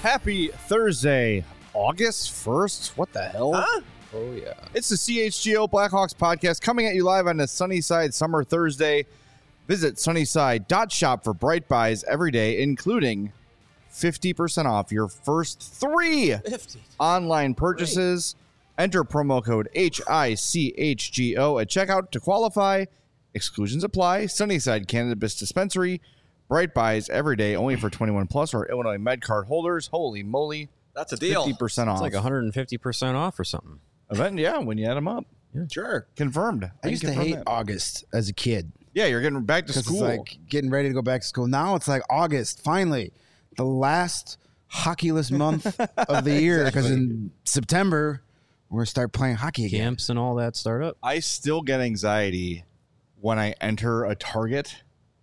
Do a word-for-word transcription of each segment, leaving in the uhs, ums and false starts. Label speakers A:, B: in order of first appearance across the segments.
A: Happy Thursday, August first. What the hell?
B: Huh?
C: Oh, yeah.
A: It's the C H G O Blackhawks podcast coming at you live on a Sunnyside Summer Thursday. Visit sunnyside dot shop for bright buys every day, including fifty percent off your first three
B: fifty
A: online purchases. Great. Enter promo code H I C H G O at checkout to qualify. Exclusions apply. Sunnyside Cannabis Dispensary. Bright buys every day, only for twenty-one plus or Illinois MedCard holders. Holy moly.
B: That's a deal.
A: fifty percent off.
C: It's like one hundred fifty percent off or something.
A: Event, yeah, when you add them up.
C: Yeah.
D: Sure.
A: Confirmed.
D: I used to
A: confirm
D: hate
A: that.
D: August as a kid.
A: Yeah, you're getting back to
D: Because
A: school.
D: it's like getting ready to go back to school. Now it's like August, finally. The last hockeyless month of the year. Because in September, we're going to start playing hockey again.
C: Camps and all that start up.
A: I still get anxiety when I enter a Target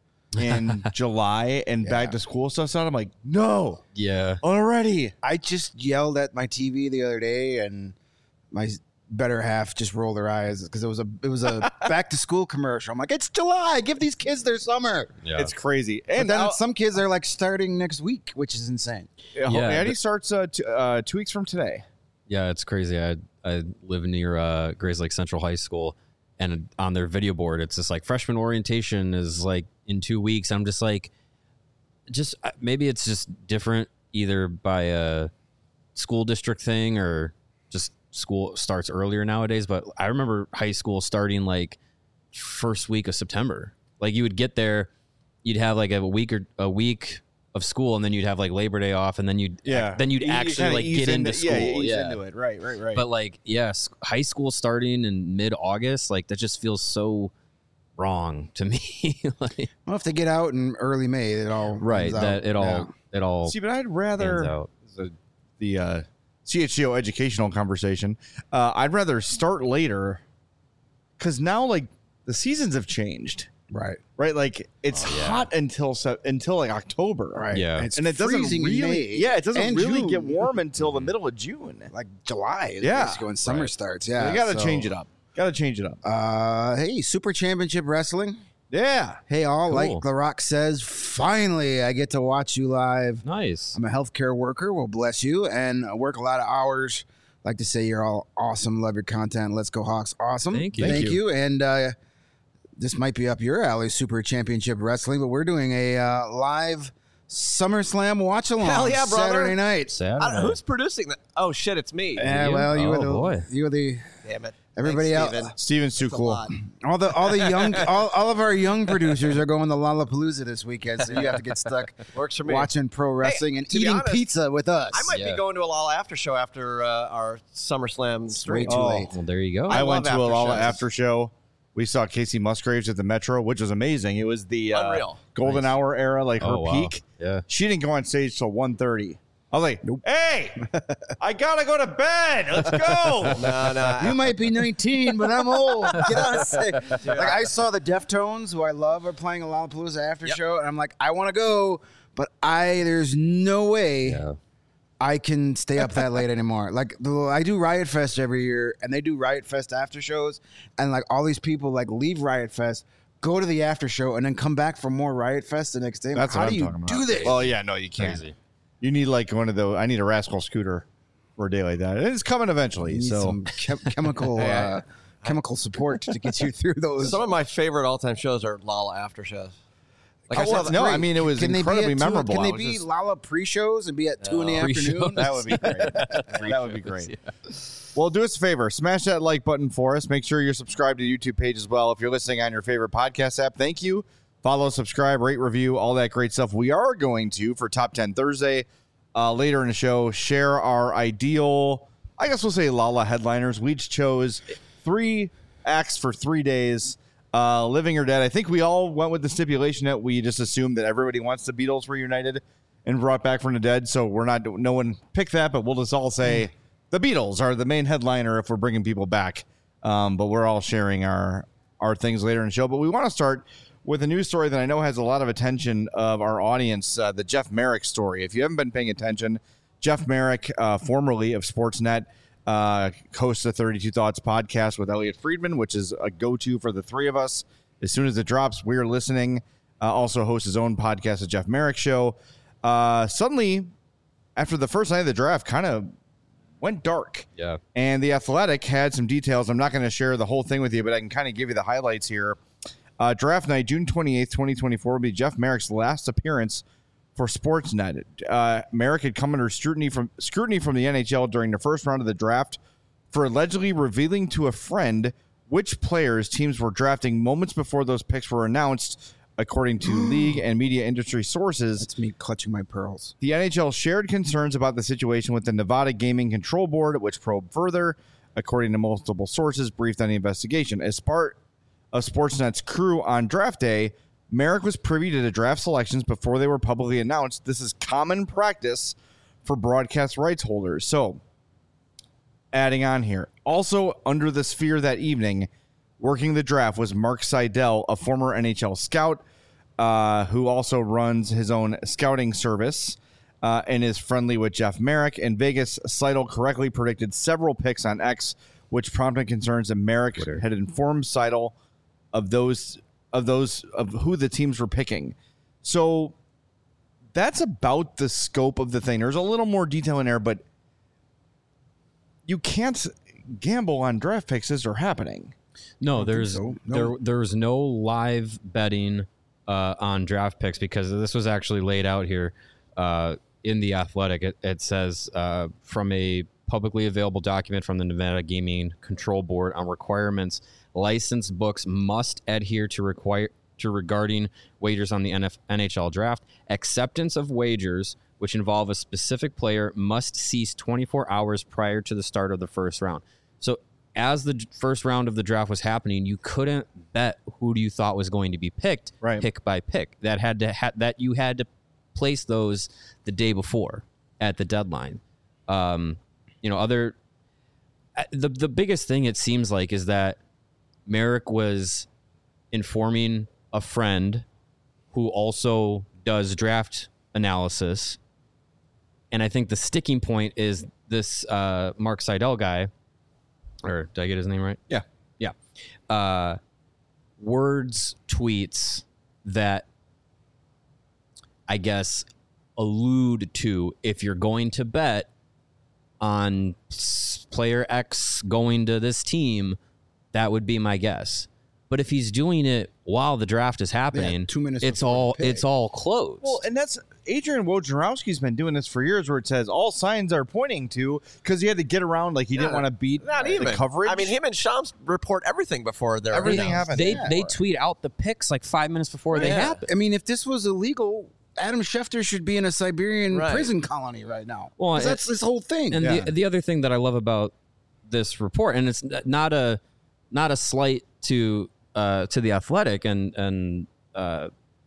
A: in July and
D: Yeah.
A: back to school stuff. So I'm like, no,
C: Yeah.
A: already.
D: I just yelled at my T V the other day, and my better half just rolled their eyes because it was a it was a back to school commercial. I'm like, it's July, give these kids their summer.
C: Yeah.
A: It's crazy.
D: And
A: And
D: then
A: now,
D: some kids are like starting next week, which is insane.
A: yeah,
C: Yeah,
A: Eddie
C: but-
A: starts uh, t- uh, two weeks from today.
C: Yeah, it's crazy. I I live near uh, Grays Lake Central High School, and on their video board, it's just like freshman orientation is like in two weeks. I'm just like, just uh, maybe it's just different either by a school district thing or just school starts earlier nowadays. But I remember high school starting like first week of September. Like you would get there, you'd have like a week or a week of school, and then you'd have like Labor Day off, and then you'd
A: Yeah.
C: then you'd
A: You- you
C: actually
A: kinda
C: like
A: ease
C: get into school.
A: Yeah, you ease
C: yeah.
A: into it. Right, right, right.
C: But like, yes, high school starting in mid-August, like that just feels so wrong to me. Like,
D: Well, if they get out in early May, it all
C: right,
D: ends
C: that
D: out.
C: it all
D: Yeah.
C: it all
A: See, but I'd
C: pans
A: rather
C: out.
A: the, the uh, C H G O educational conversation. Uh, I'd rather start later because now, like, the seasons have changed.
D: Right.
A: Right, like it's
C: Oh, yeah.
A: hot until se- until like October,
D: Right.
C: Yeah.
D: And it's
A: and it doesn't
D: freezing in
A: really,
D: May
A: yeah, it doesn't
D: and
A: really
D: June.
A: get warm until the middle of June.
D: Like July is
A: Yeah.
D: basically when summer
C: Right.
D: starts.
A: So
D: Yeah.
A: you got to
D: so-
A: change it up. Got to change it up.
D: Uh, hey, Super Championship Wrestling.
A: Yeah,
D: Hey, all,
C: Cool.
D: like The Rock says, finally I get to watch you live.
C: Nice.
D: I'm a healthcare worker. Well, bless you. And I work a lot of hours. Like to say you're all awesome. Love your content. Let's go Hawks. Awesome.
C: Thank you.
D: Thank,
A: Thank
D: you. And uh, this might be up your alley, Super Championship Wrestling, but we're doing a uh, live SummerSlam watch along
B: Hell yeah, brother.
D: Saturday night.
C: Saturday.
B: Uh, who's producing that? Oh shit, it's me.
D: Yeah,
C: you?
D: well, you were
C: Oh,
D: the
C: boy.
D: you were the
B: Damn it.
D: everybody
B: Thanks,
D: else.
B: Steven.
A: Steven's too
B: That's a
A: cool.
B: lot.
D: all the all the young all, all of our young producers are going to Lollapalooza this weekend, so you have to get stuck
B: Works for me.
D: watching pro wrestling and
B: to be
D: eating
B: honest,
D: pizza with us.
B: I might
C: Yeah.
B: be going to a Lala after show after uh, our SummerSlam
D: Way
B: stream.
D: too
A: Oh.
D: late.
C: Well, there you go.
A: I,
B: I
A: went to
B: love
A: a
B: after
A: Lala
B: shows.
A: after show. We saw Casey Musgraves at the Metro, which was amazing. It was the uh,
B: Unreal.
A: golden
C: Nice.
A: hour era, like her
C: Oh, wow.
A: peak.
C: Yeah.
A: She didn't go on stage till one thirty. I was like, hey, I gotta go to bed. Let's go.
B: No, no.
D: You might be nineteen, but I'm old. Get on stage. Like I saw the Deftones, who I love, are playing a Lollapalooza after
B: Yep.
D: show, and I'm like, I want to go, but I there's no way
C: Yeah.
D: I can stay up that late anymore. Like the, I do Riot Fest every year, and they do Riot Fest after shows, and like all these people like leave Riot Fest, go to the after show, and then come back for more Riot Fest the next day.
A: That's
D: How
A: what
D: do
A: I'm
D: you
A: talking about.
D: do this?
A: Well, yeah, no, you can't.
C: Crazy.
A: You need like one of those. I need a Rascal scooter for a day like that. And it's coming eventually.
D: you need
A: So
D: some chem- chemical uh, chemical support to get you through those.
B: Some of my favorite all-time shows are Lala after shows. Like I
A: Oh,
B: saw
A: well,
B: the,
A: no,
D: Great.
A: I mean it was
D: Can they be
A: incredibly
D: at two-
A: memorable.
D: Can
A: I
D: they
A: was
D: be
A: just-
D: Lala pre-shows and be at two in the
C: Pre-shows.
D: afternoon?
A: that would be great. that would be great. Well, do us a favor. Smash that like button for us. Make sure you're subscribed to the YouTube page as well. If you're listening on your favorite podcast app, thank you. Follow, subscribe, rate, review, all that great stuff. We are going to, for Top ten Thursday, uh, later in the show, share our ideal, I guess we'll say Lala headliners. We each chose three acts for three days, uh, living or dead. I think we all went with the stipulation that we just assumed that everybody wants the Beatles reunited and brought back from the dead. So we're not, no one picked that, but we'll just all say the Beatles are the main headliner if we're bringing people back. Um, but we're all sharing our, our things later in the show. But we want to start with a news story that I know has a lot of attention of our audience, uh, the Jeff Merrick story. If you haven't been paying attention, Jeff Merrick, uh, formerly of Sportsnet, uh, hosts the thirty-two Thoughts podcast with Elliot Friedman, which is a go-to for the three of us. As soon as it drops, we're listening. Uh, also hosts his own podcast, The Jeff Merrick Show. Uh, suddenly after the first night of the draft kind of went dark.
C: Yeah.
A: And The Athletic had some details. I'm not going to share the whole thing with you, but I can kind of give you the highlights here. Uh, draft night, June twenty-eighth, twenty twenty-four, will be Jeff Merrick's last appearance for Sportsnet. Uh, Merrick had come under scrutiny from scrutiny from the N H L during the first round of the draft for allegedly revealing to a friend which players teams were drafting moments before those picks were announced, according to league and media industry sources.
D: That's me clutching my pearls.
A: The N H L shared concerns about the situation with the Nevada Gaming Control Board, which probed further, according to multiple sources briefed on the investigation. As part of Sportsnet's crew on draft day, Merrick was privy to the draft selections before they were publicly announced. This is common practice for broadcast rights holders. So, adding on here, also under the sphere that evening, working the draft was Mark Seidel, a former N H L scout uh, who also runs his own scouting service uh, and is friendly with Jeff Merrick. In Vegas, Seidel correctly predicted several picks on X, which prompted concerns that Merrick Twitter. had informed Seidel of those of those of who the teams were picking. So that's about the scope of the thing. There's a little more detail in there, but you can't gamble on draft picks as they're happening.
C: No, there's
D: so. No.
C: there there's no live betting uh, on draft picks because this was actually laid out here uh, in The Athletic. It, it says uh, from a publicly available document from the Nevada Gaming Control Board on requirements, licensed books must adhere to require to regarding wagers on the N F, N H L draft. Acceptance of wagers which involve a specific player must cease twenty-four hours prior to the start of the first round. So as the first round of the draft was happening, you couldn't bet who do you thought was going to be picked,
A: right.
C: pick by pick. That had to ha- that you had to place those the day before at the deadline. Um, you know, other the the biggest thing it seems like is that Merrick was informing a friend who also does draft analysis, and I think the sticking point is this uh, Mark Seidel guy. Or did I get his name right?
A: Yeah.
C: Yeah. Uh, words, tweets that I guess allude to if you're going to bet on player X going to this team, that would be my guess. But if he's doing it while the draft is happening,
D: Yeah, two minutes
C: it's
D: before
C: all
D: the pick.
C: it's all closed.
A: Well, and that's Adrian Wojnarowski's been doing this for years, where it says all signs are pointing to, because he had to get around, like he didn't
B: Yeah,
A: want to beat
B: Not
A: the
B: even
A: coverage.
B: I mean, him and Shams report everything before they're
A: Everything
B: announced.
A: happens.
C: they
A: Yeah.
C: they tweet out the picks like five minutes before they
B: Yeah.
C: happen.
D: I mean, if this was illegal, Adam Schefter should be in a Siberian
B: Right.
D: prison colony right now.
C: Well,
D: 'Cause that's
C: it-
D: this whole thing.
C: And
A: Yeah.
C: the the other thing that I love about this report, and it's not a not a slight to uh, to the Athletic and and uh,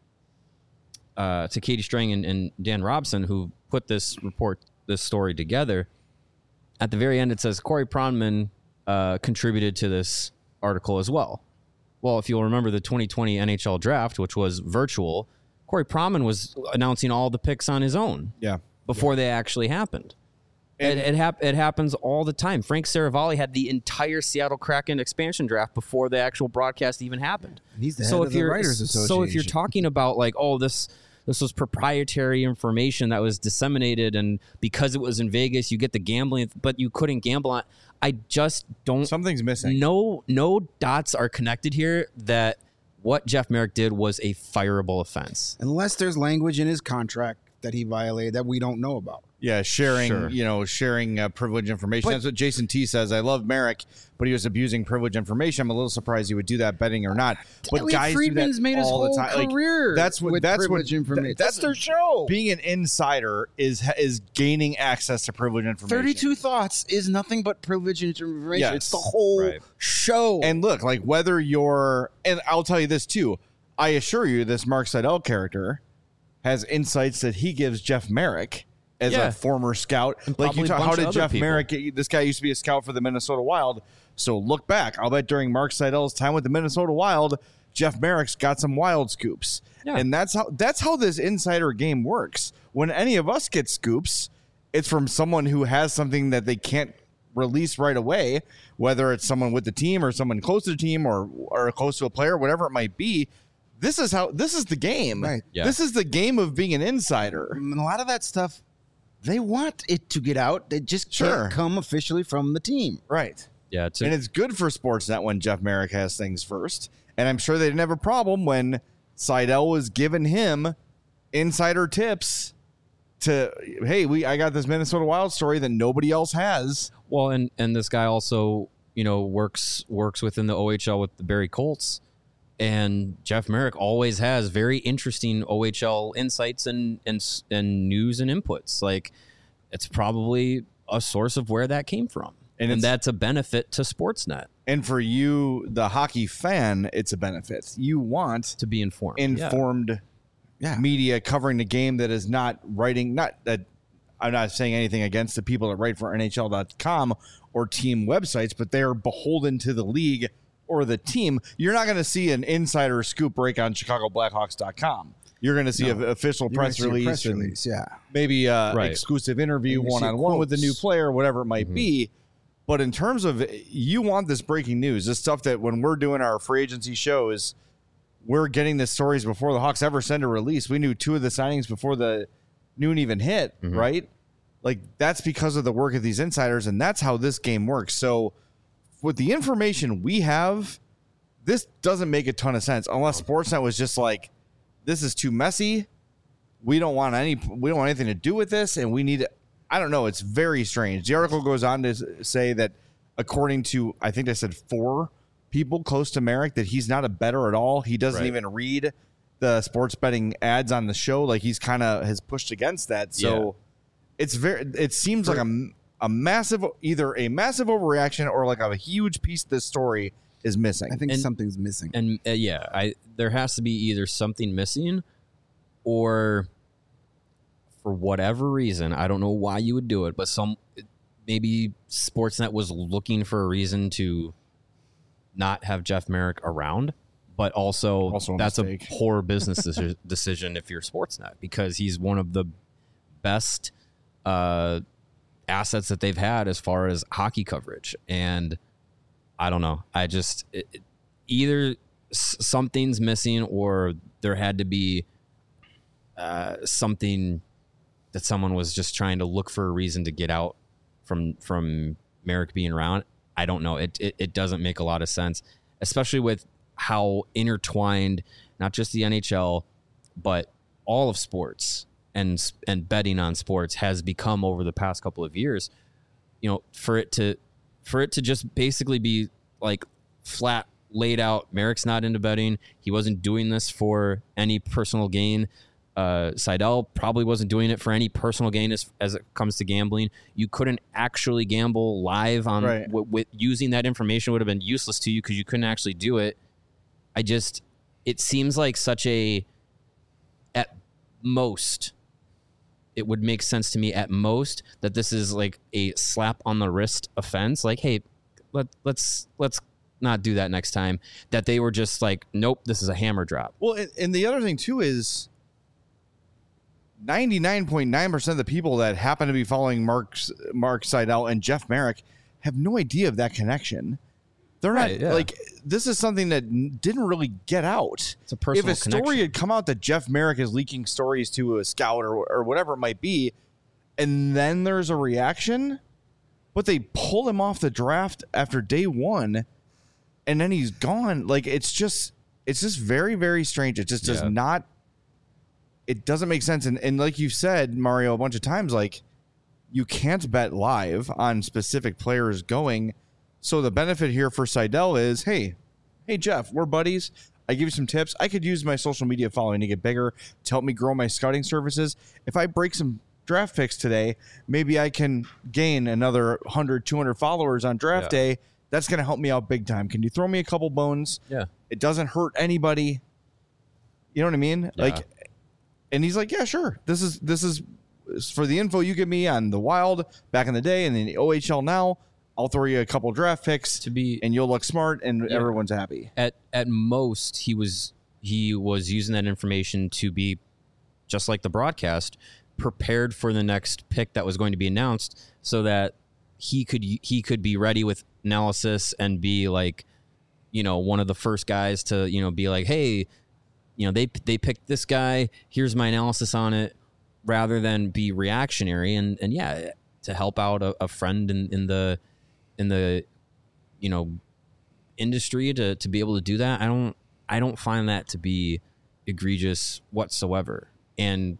C: uh, to Katie Strang and, and Dan Robson, who put this report this story together. At the very end, it says Corey Pronman uh, contributed to this article as well. Well, if you'll remember the twenty twenty N H L draft, which was virtual, Corey Pronman was announcing all the picks on his own
A: yeah.
C: before they actually happened.
A: And-
C: it it, hap- it happens all the time. Frank Saravalli had the entire Seattle Kraken expansion draft before the actual broadcast even happened.
D: He's the
C: so
D: head
C: if
D: of the
C: you're
D: Writers
C: so if you're
D: Association.
C: talking about like, oh, this this was proprietary information that was disseminated, and because it was in Vegas, you get the gambling, but you couldn't gamble on. I just don't.
A: Something's missing.
C: No, no dots are connected here that what Jeff Merrick did was a fireable offense.
D: Unless there's language in his contract that he violated that we don't know about.
A: Yeah, sharing,
C: Sure.
A: you know, sharing uh, privileged information.
D: But-
A: That's what Jason T says. I love Merrick, but he was abusing privileged information. I'm a little surprised he would do that betting or not. But
D: Elliot
A: guys
D: Friedman's
A: do that
D: made his
A: all
D: whole
A: the time. Like,
D: career
A: that's what
D: with
A: that's what
D: privileged information.
A: that-
D: That's their show.
A: Being an insider is is gaining access to privileged information.
D: thirty-two Thoughts is nothing but privileged information.
A: Yes.
D: It's the whole
C: Right.
D: show.
A: And look, like whether you're, and I'll tell you this too. I assure you, this Mark Seidel character has insights that he gives Jeff Merrick as
C: Yeah.
A: a former scout.
C: And
A: Like you
C: probably a
A: talk,
C: bunch
A: how
C: of
A: did
C: other
A: Jeff
C: people.
A: Merrick get, this guy used to be a scout for the Minnesota Wild. So look back. I'll bet during Mark Seidel's time with the Minnesota Wild, Jeff Merrick's got some wild scoops.
C: Yeah.
A: And that's how that's how this insider game works. When any of us get scoops, it's from someone who has something that they can't release right away, whether it's someone with the team or someone close to the team or or close to a player, whatever it might be. This is how this is the game.
D: Right.
C: Yeah.
A: This is the game of being an insider.
D: And a lot of that stuff, they want it to get out. They just
A: Sure.
D: can't come officially from the team.
A: Right.
C: Yeah, to,
A: And it's good for Sportsnet when Jeff Merrick has things first. And I'm sure they didn't have a problem when Seidel was giving him insider tips to, hey, we I got this Minnesota Wild story that nobody else has.
C: well, and and this guy also, you know, works works within the O H L with the Barrie Colts, and Jeff Merrick always has very interesting O H L insights and and s- and news and inputs. Like, it's probably a source of where that came from,
A: And
C: and,
A: it's-
C: that's a benefit to Sportsnet
A: And for you, the hockey fan, it's a benefit. You want
C: to be informed. Yeah.
A: informed
D: Yeah.
A: media covering the game that is not writing, not that I'm not saying anything against the people that write for N H L dot com or team websites, but they're beholden to the league or the team. You're not going to see an insider scoop break on Chicago Blackhawks dot com. You're going to see an official
D: You're gonna
A: press
D: see a
A: release,
D: press
A: and
D: release, yeah.
A: maybe a
C: Right.
A: exclusive interview
D: And you see
A: one-on-one with the new
D: quotes.
A: player, whatever it might
C: Mm-hmm.
A: be. But in terms of, you want this breaking news, this stuff that when we're doing our free agency shows, we're getting the stories before the Hawks ever send a release. We knew two of the signings before the noon even hit,
C: Mm-hmm.
A: right? Like, that's because of the work of these insiders, and that's how this game works. So with the information we have, this doesn't make a ton of sense unless Sportsnet was just like, this is too messy. We don't want any we don't want anything to do with this, and we need to, I don't know, it's very strange. The article goes on to s- say that according to, I think they said four people close to Merrick, that he's not a bettor at all. He doesn't
C: Right.
A: even read the sports betting ads on the show. Like, he's kind of has pushed against that. So it's very, it seems like a, a massive, either a massive overreaction or like a huge piece of this story is missing.
D: I think
C: And-
D: something's missing.
C: And uh, yeah, I there has to be either something missing, or for whatever reason, I don't know why you would do it, but some maybe Sportsnet was looking for a reason to not have Jeff Merrick around, but also,
A: Also a
C: that's
A: mistake.
C: a poor business deci- decision if you're Sportsnet, because he's one of the best uh, assets that they've had as far as hockey coverage. And I don't know. I just it, it- either s- something's missing, or there had to be uh, something that someone was just trying to look for a reason to get out from from Merrick being around. I don't know. It, it it doesn't make a lot of sense, especially with how intertwined not just the N H L, but all of sports and s- and betting on sports has become over the past couple of years. You know, for it to for it to just basically be like flat laid out, Merrick's not into betting. He wasn't doing this for any personal gain. Uh, Seidel probably wasn't doing it for any personal gain as, as it comes to gambling. You couldn't actually gamble live on
A: Right.
C: w- with using that information would have been useless to you because you couldn't actually do it. I just, it seems like such a, at most, it would make sense to me at most that this is like a slap on the wrist offense. Like, hey, let, let's, let's not do that next time. That they were just like, nope, this is a hammer drop.
A: Well, and, and the other thing too is ninety-nine point nine percent of the people that happen to be following Mark Mark Seidel and Jeff Merrick have no idea of that connection. They're
C: Right,
A: not
C: yeah.
A: like, this is something that n- didn't really get out.
C: It's a personal
A: If a story
C: connection.
A: had come out that Jeff Merrick is leaking stories to a scout or, or whatever it might be, and then there's a reaction, but they pull him off the draft after day one, and then he's gone. Like, it's just, it's just very, very strange. It just does
C: Yeah.
A: not, it doesn't make sense. And, and like you said, Mario, a bunch of times, like, you can't bet live on specific players going. So the benefit here for Seidel is, hey, hey, Jeff, we're buddies. I give you some tips. I could use my social media following to get bigger, to help me grow my scouting services. If I break some draft picks today, maybe I can gain another one hundred, two hundred followers on draft
C: Yeah.
A: day. That's going to help me out big time. Can you throw me a couple bones?
C: Yeah.
A: It doesn't hurt anybody. You know what I mean?
C: Yeah.
A: Like, and he's like, yeah, sure. This is, this is for the info you give me on the Wild back in the day and in the O H L now. I'll throw you a couple draft picks
C: To be
A: and you'll look smart and
C: Yeah.
A: everyone's happy.
C: at at most he was he was using that information to be, just like the broadcast, prepared for the next pick that was going to be announced, so that he could he could be ready with analysis and be like, you know, one of the first guys to, you know, be like, hey, you know, they they picked this guy, here's my analysis on it. rather than be reactionary and, and yeah, to help out a, a friend in, in the, in the, you know, industry to, to be able to do that. I don't, I don't find that to be egregious whatsoever. And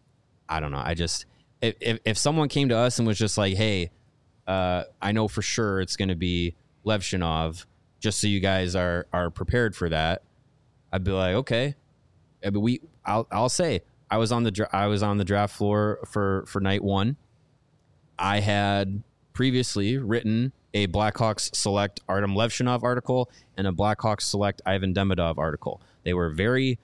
C: I don't know. I just, if, if, if someone came to us and was just like, hey, uh, I know for sure it's going to be Levshinov, just so you guys are, are prepared for that, I'd be like, okay. But we, I'll, I'll say, I was on the, dra- I was on the draft floor for, for night one. I had previously written a Blackhawks select Artem Levshinov article and a Blackhawks select Ivan Demidov article. They were very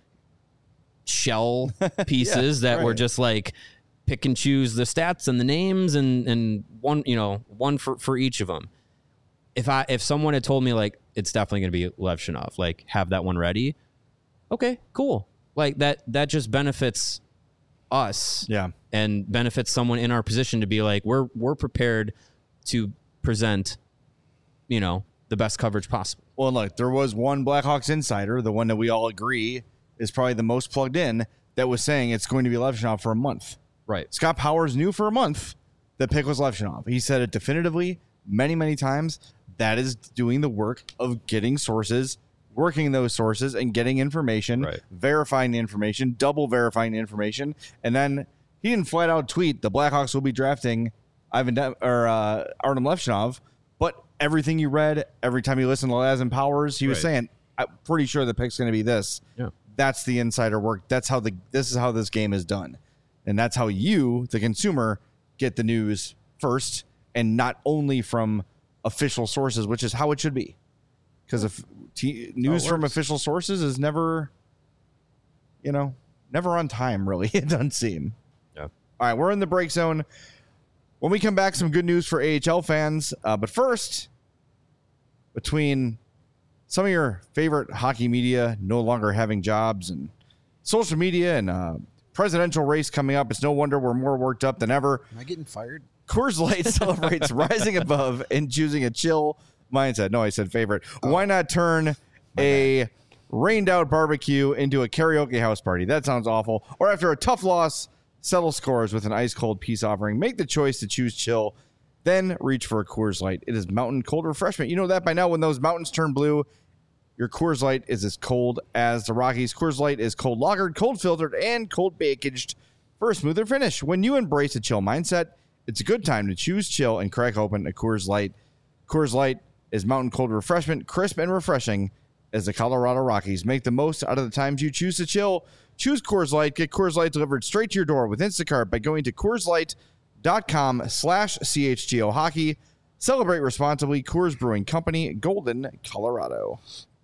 C: shell pieces yeah, that right. were just like pick and choose the stats and the names and, and one, you know, one for, for each of them. If I, if someone had told me like, it's definitely going to be Levshinov, like have that one ready. Okay, cool. Like that, that just benefits us,
A: yeah,
C: and benefits someone in our position to be like, we're we're prepared to present, you know, the best coverage possible.
A: Well, look, there was one Blackhawks insider, the one that we all agree is probably the most plugged in, that was saying it's going to be Levshinov for a month.
C: Right.
A: Scott Powers knew for a month the pick was Levshinov. He said it definitively many, many times. That is doing the work of getting sources, working those sources and getting information,
C: right.
A: verifying the information, double verifying the information. And then he didn't flat out tweet the Blackhawks will be drafting Ivan De- or uh, Artem Levshinov, but everything you read, every time you listen to Laz Powers, he was right. saying, I'm pretty sure the pick's going to be this.
C: Yeah.
A: That's the insider work. That's how the, this is how this game is done. And that's how you, the consumer, get the news first, and not only from official sources, which is how it should be. Because if t- news oh, from official sources is never, you know, never on time, really. It doesn't seem.
C: Yeah.
A: All right, we're in the break zone. When we come back, some good news for A H L fans. Uh, but first, between some of your favorite hockey media no longer having jobs and social media and uh, presidential race coming up, it's no wonder we're more worked up than ever.
D: Am I getting fired?
A: Coors Light celebrates rising above and choosing a chill mindset. No, I said favorite. Oh. Why not turn a bad. rained out barbecue into a karaoke house party? That sounds awful. Or after a tough loss, settle scores with an ice cold peace offering. Make the choice to choose chill, then reach for a Coors Light. It is mountain cold refreshment. You know that by now. When those mountains turn blue, your Coors Light is as cold as the Rockies. Coors Light is cold lagered, cold filtered, and cold packaged for a smoother finish. When you embrace a chill mindset, it's a good time to choose chill and crack open a Coors Light. Coors Light is mountain cold refreshment, crisp and refreshing as the Colorado Rockies. Make the most out of the times you choose to chill. Choose Coors Light. Get Coors Light delivered straight to your door with Instacart by going to CoorsLight.com slash CHGO Hockey. Celebrate responsibly. Coors Brewing Company, Golden, Colorado.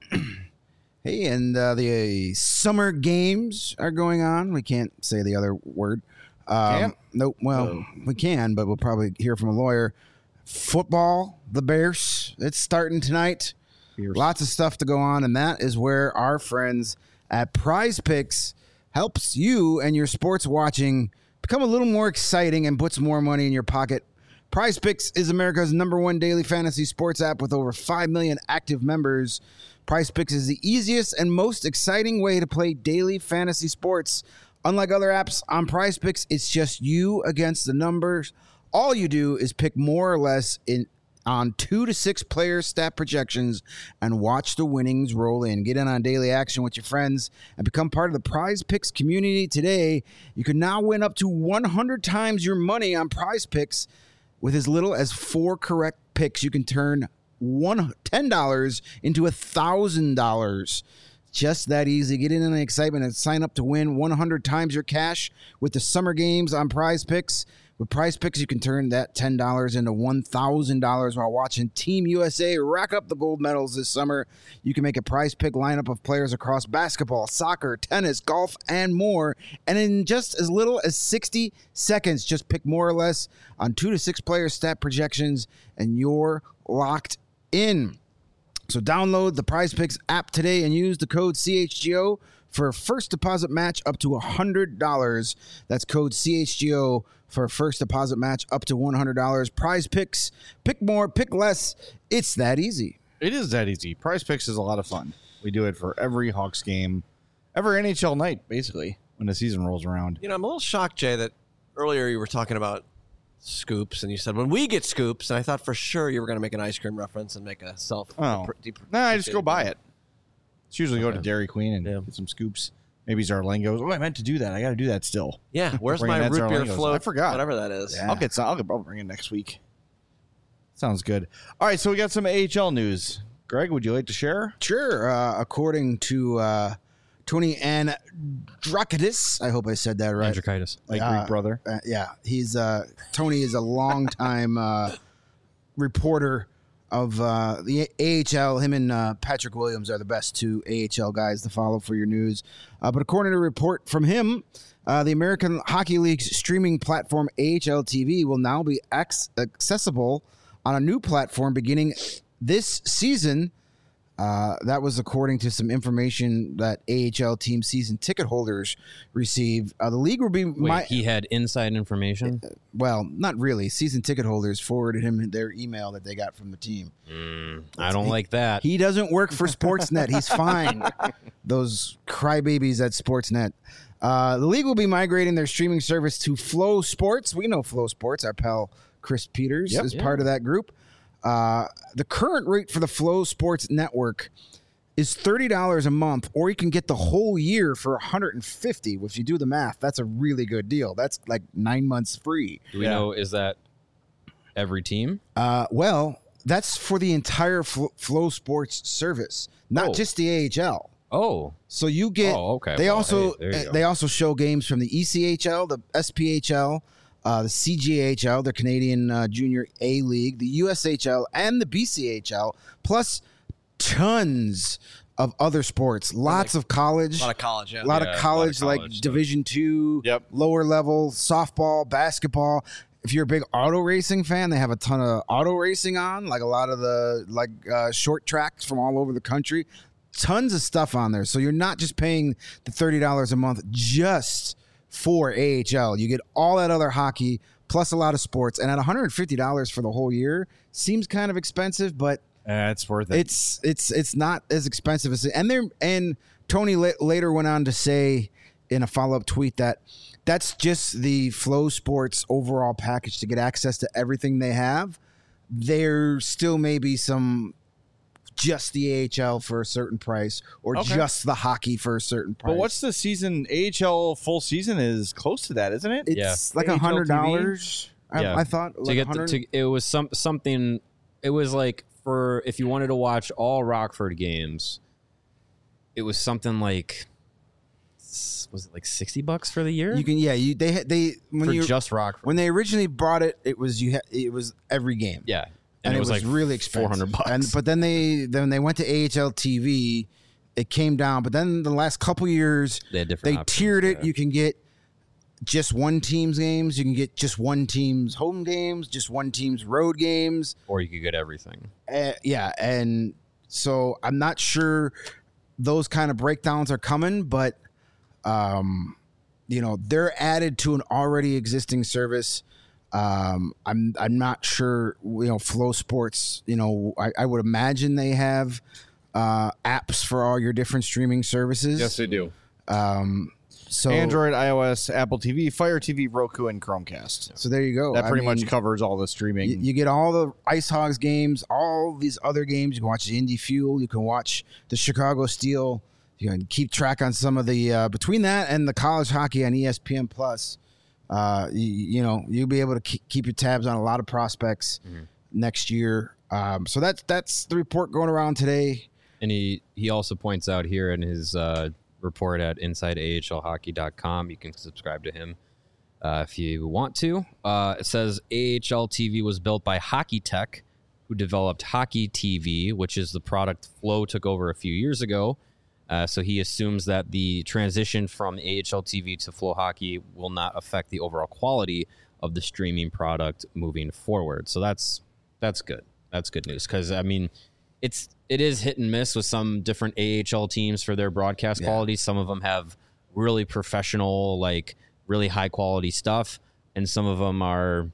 D: Hey, and uh, the summer games are going on. We can't say the other word. Um,
A: can't?
D: Nope. Well,
A: oh.
D: we can, but we'll probably hear from a lawyer. Football, the Bears, it's starting tonight.
A: Bears.
D: Lots of stuff to go on, and that is where our friends at Prize Picks helps you and your sports watching become a little more exciting and puts more money in your pocket. Prize Picks is America's number one daily fantasy sports app with over five million active members. Prize Picks is the easiest and most exciting way to play daily fantasy sports. Unlike other apps on Prize Picks, it's just you against the numbers. All you do is pick more or less in on two to six player stat projections and watch the winnings roll in. Get in on daily action with your friends and become part of the Prize Picks community today. You can now win up to one hundred times your money on Prize Picks. With as little as four correct picks, you can turn one ten dollars into one thousand dollars. Just that easy. Get in on the excitement and sign up to win one hundred times your cash with the summer games on Prize Picks. With Prize Picks, you can turn that ten dollars into one thousand dollars while watching Team U S A rack up the gold medals this summer. You can make a Prize Pick lineup of players across basketball, soccer, tennis, golf, and more. And in just as little as sixty seconds, just pick more or less on two to six player stat projections, and you're locked in. So download the Prize Picks app today and use the code C H G O for a first deposit match up to one hundred dollars. That's code C H G O for a first deposit match up to one hundred dollars. Prize Picks, pick more, pick less. It's that easy.
A: It is that easy. Prize Picks is a lot of fun. We do it for every Hawks game, every N H L night, basically, when the season rolls around.
B: You know, I'm a little shocked, Jay, that earlier you were talking about scoops, and you said when we get scoops, and I thought for sure you were going to make an ice cream reference and make a self.
A: Oh,
B: deep,
A: nah, I just go buy it. It's usually go to
B: Okay.
A: Dairy Queen and
B: Yeah.
A: get some scoops. Maybe Zarlingos. Oh, I meant to do that. I got to do that still.
B: Yeah, where's
A: Bring
B: my
A: that
B: root beer
A: Zarlingos.
B: float?
A: I forgot.
B: Whatever that is.
D: Yeah.
A: I'll get some. I'll, get, I'll bring it next week. Sounds good. All right, so we got some A H L news. Greg, would you like to share?
D: Sure. Uh, according to uh, Tony Andrakidis, I hope I said that right.
C: Andrikaitis.
A: My
D: Uh,
A: Greek brother.
D: Uh, yeah, he's uh, Tony is a longtime uh, reporter of uh, the A H L. Him and uh, Patrick Williams are the best two A H L guys to follow for your news. Uh, but according to a report from him, uh, the American Hockey League's streaming platform A H L T V will now be ac- accessible on a new platform beginning this season. Uh, that was according to some information that A H L team season ticket holders received. Uh, the league will be
C: Wait,
D: my,
C: he had inside information?
D: well, not really. Season ticket holders forwarded him their email that they got from the team.
C: Mm, I don't like that.
D: He doesn't work for Sportsnet. He's fine. Those crybabies at Sportsnet. Uh, the league will be migrating their streaming service to Flow Sports. We know Flow Sports. Our pal Chris Peters
A: Yep.
D: is
C: Yeah.
D: part of that group. Uh, the current rate for the Flow Sports network is thirty dollars a month, or you can get the whole year for one hundred fifty dollars. If you do the math, that's a really good deal. That's like nine months free.
C: Do we
A: Yeah.
C: know, is that every team?
D: Uh, well, that's for the entire Flo, Flow Sports service, not
C: Oh.
D: just the A H L.
C: Oh,
D: So you get.
C: Oh, okay.
D: They
C: Well,
D: also
C: hey, there you
D: uh,
C: go.
D: they also show games from the E C H L, the S P H L, uh, the C G H L, the Canadian uh, Junior A League, the U S H L, and the B C H L, plus tons of other sports. Lots of college.
B: A lot of college, yeah.
D: A lot
C: Yeah, a
D: of
C: lot of
D: college, like
C: college stuff.
D: Division two,
A: Yep.
D: lower level, softball, basketball. If you're a big auto racing fan, they have a ton of auto racing on, like a lot of the like uh, short tracks from all over the country. Tons of stuff on there. So you're not just paying the thirty dollars a month just for A H L. You get all that other hockey plus a lot of sports. And at one hundred fifty dollars for the whole year seems kind of expensive, but
A: Uh, it's worth it.
D: it's it's it's not as expensive as and there and Tony la- later went on to say in a follow-up tweet that that's just the Flow Sports overall package to get access to everything they have. There still may be some just the A H L for a certain price or
A: Okay.
D: just the hockey for a certain price.
A: But what's the season? A H L full season is close to that, isn't it?
D: it's
C: Yeah.
D: like
A: A H L
D: a hundred dollars. I,
C: Yeah.
D: I thought
C: to
D: like
C: get the,
D: one hundred
C: to, it was some something. It was like for if you wanted to watch all Rockford games, it was something like s- was it like sixty bucks for the year?
D: you can yeah you they had- they when
C: for
D: you
C: just Rockford.
D: when they originally brought it it was you ha- it was every game.
C: yeah,
D: And, it was,
C: like
D: really expensive.
C: four hundred bucks.
D: And but then they then they went to A H L T V, it came down. But then the last couple years,
C: They had different
D: they
C: options,
D: tiered it.
C: yeah.
D: You can get just one team's games. You can get just one team's home games, just one team's road games.
C: or you could get everything.
D: Uh, yeah, and so I'm not sure those kind of breakdowns are coming, but um, you know they're added to an already existing service. Um, I'm I'm not sure. You know, Flow Sports. You know, I, I would imagine they have uh, apps for all your different streaming services.
A: Yes, they do.
D: Um, so
A: Android, iOS, Apple T V, Fire T V, Roku, and Chromecast.
D: So there you go.
A: That
D: I
A: pretty
D: mean,
A: much covers all the streaming.
D: You, you get all the Ice Hogs games, all these other games. You can watch the Indy Fuel. You can watch the Chicago Steel. You can keep track on some of the uh, between that and the college hockey on E S P N Plus. Uh, you, you know, you'll be able to keep, keep your tabs on a lot of prospects
C: Mm-hmm.
D: next year. Um, so that's that's the report going around today.
C: And he, he also points out here in his uh, report at inside A H L hockey dot com, you can subscribe to him uh, if you want to. Uh, it says A H L T V was built by Hockey Tech, who developed Hockey T V, which is the product Flow took over a few years ago. Uh, so he assumes that the transition from A H L T V to Flow Hockey will not affect the overall quality of the streaming product moving forward. So that's that's good. That's good news because I mean, it's it is hit and miss with some different A H L teams for their broadcast
D: Yeah.
C: quality. Some of them have really professional, like really high quality stuff, and some of them are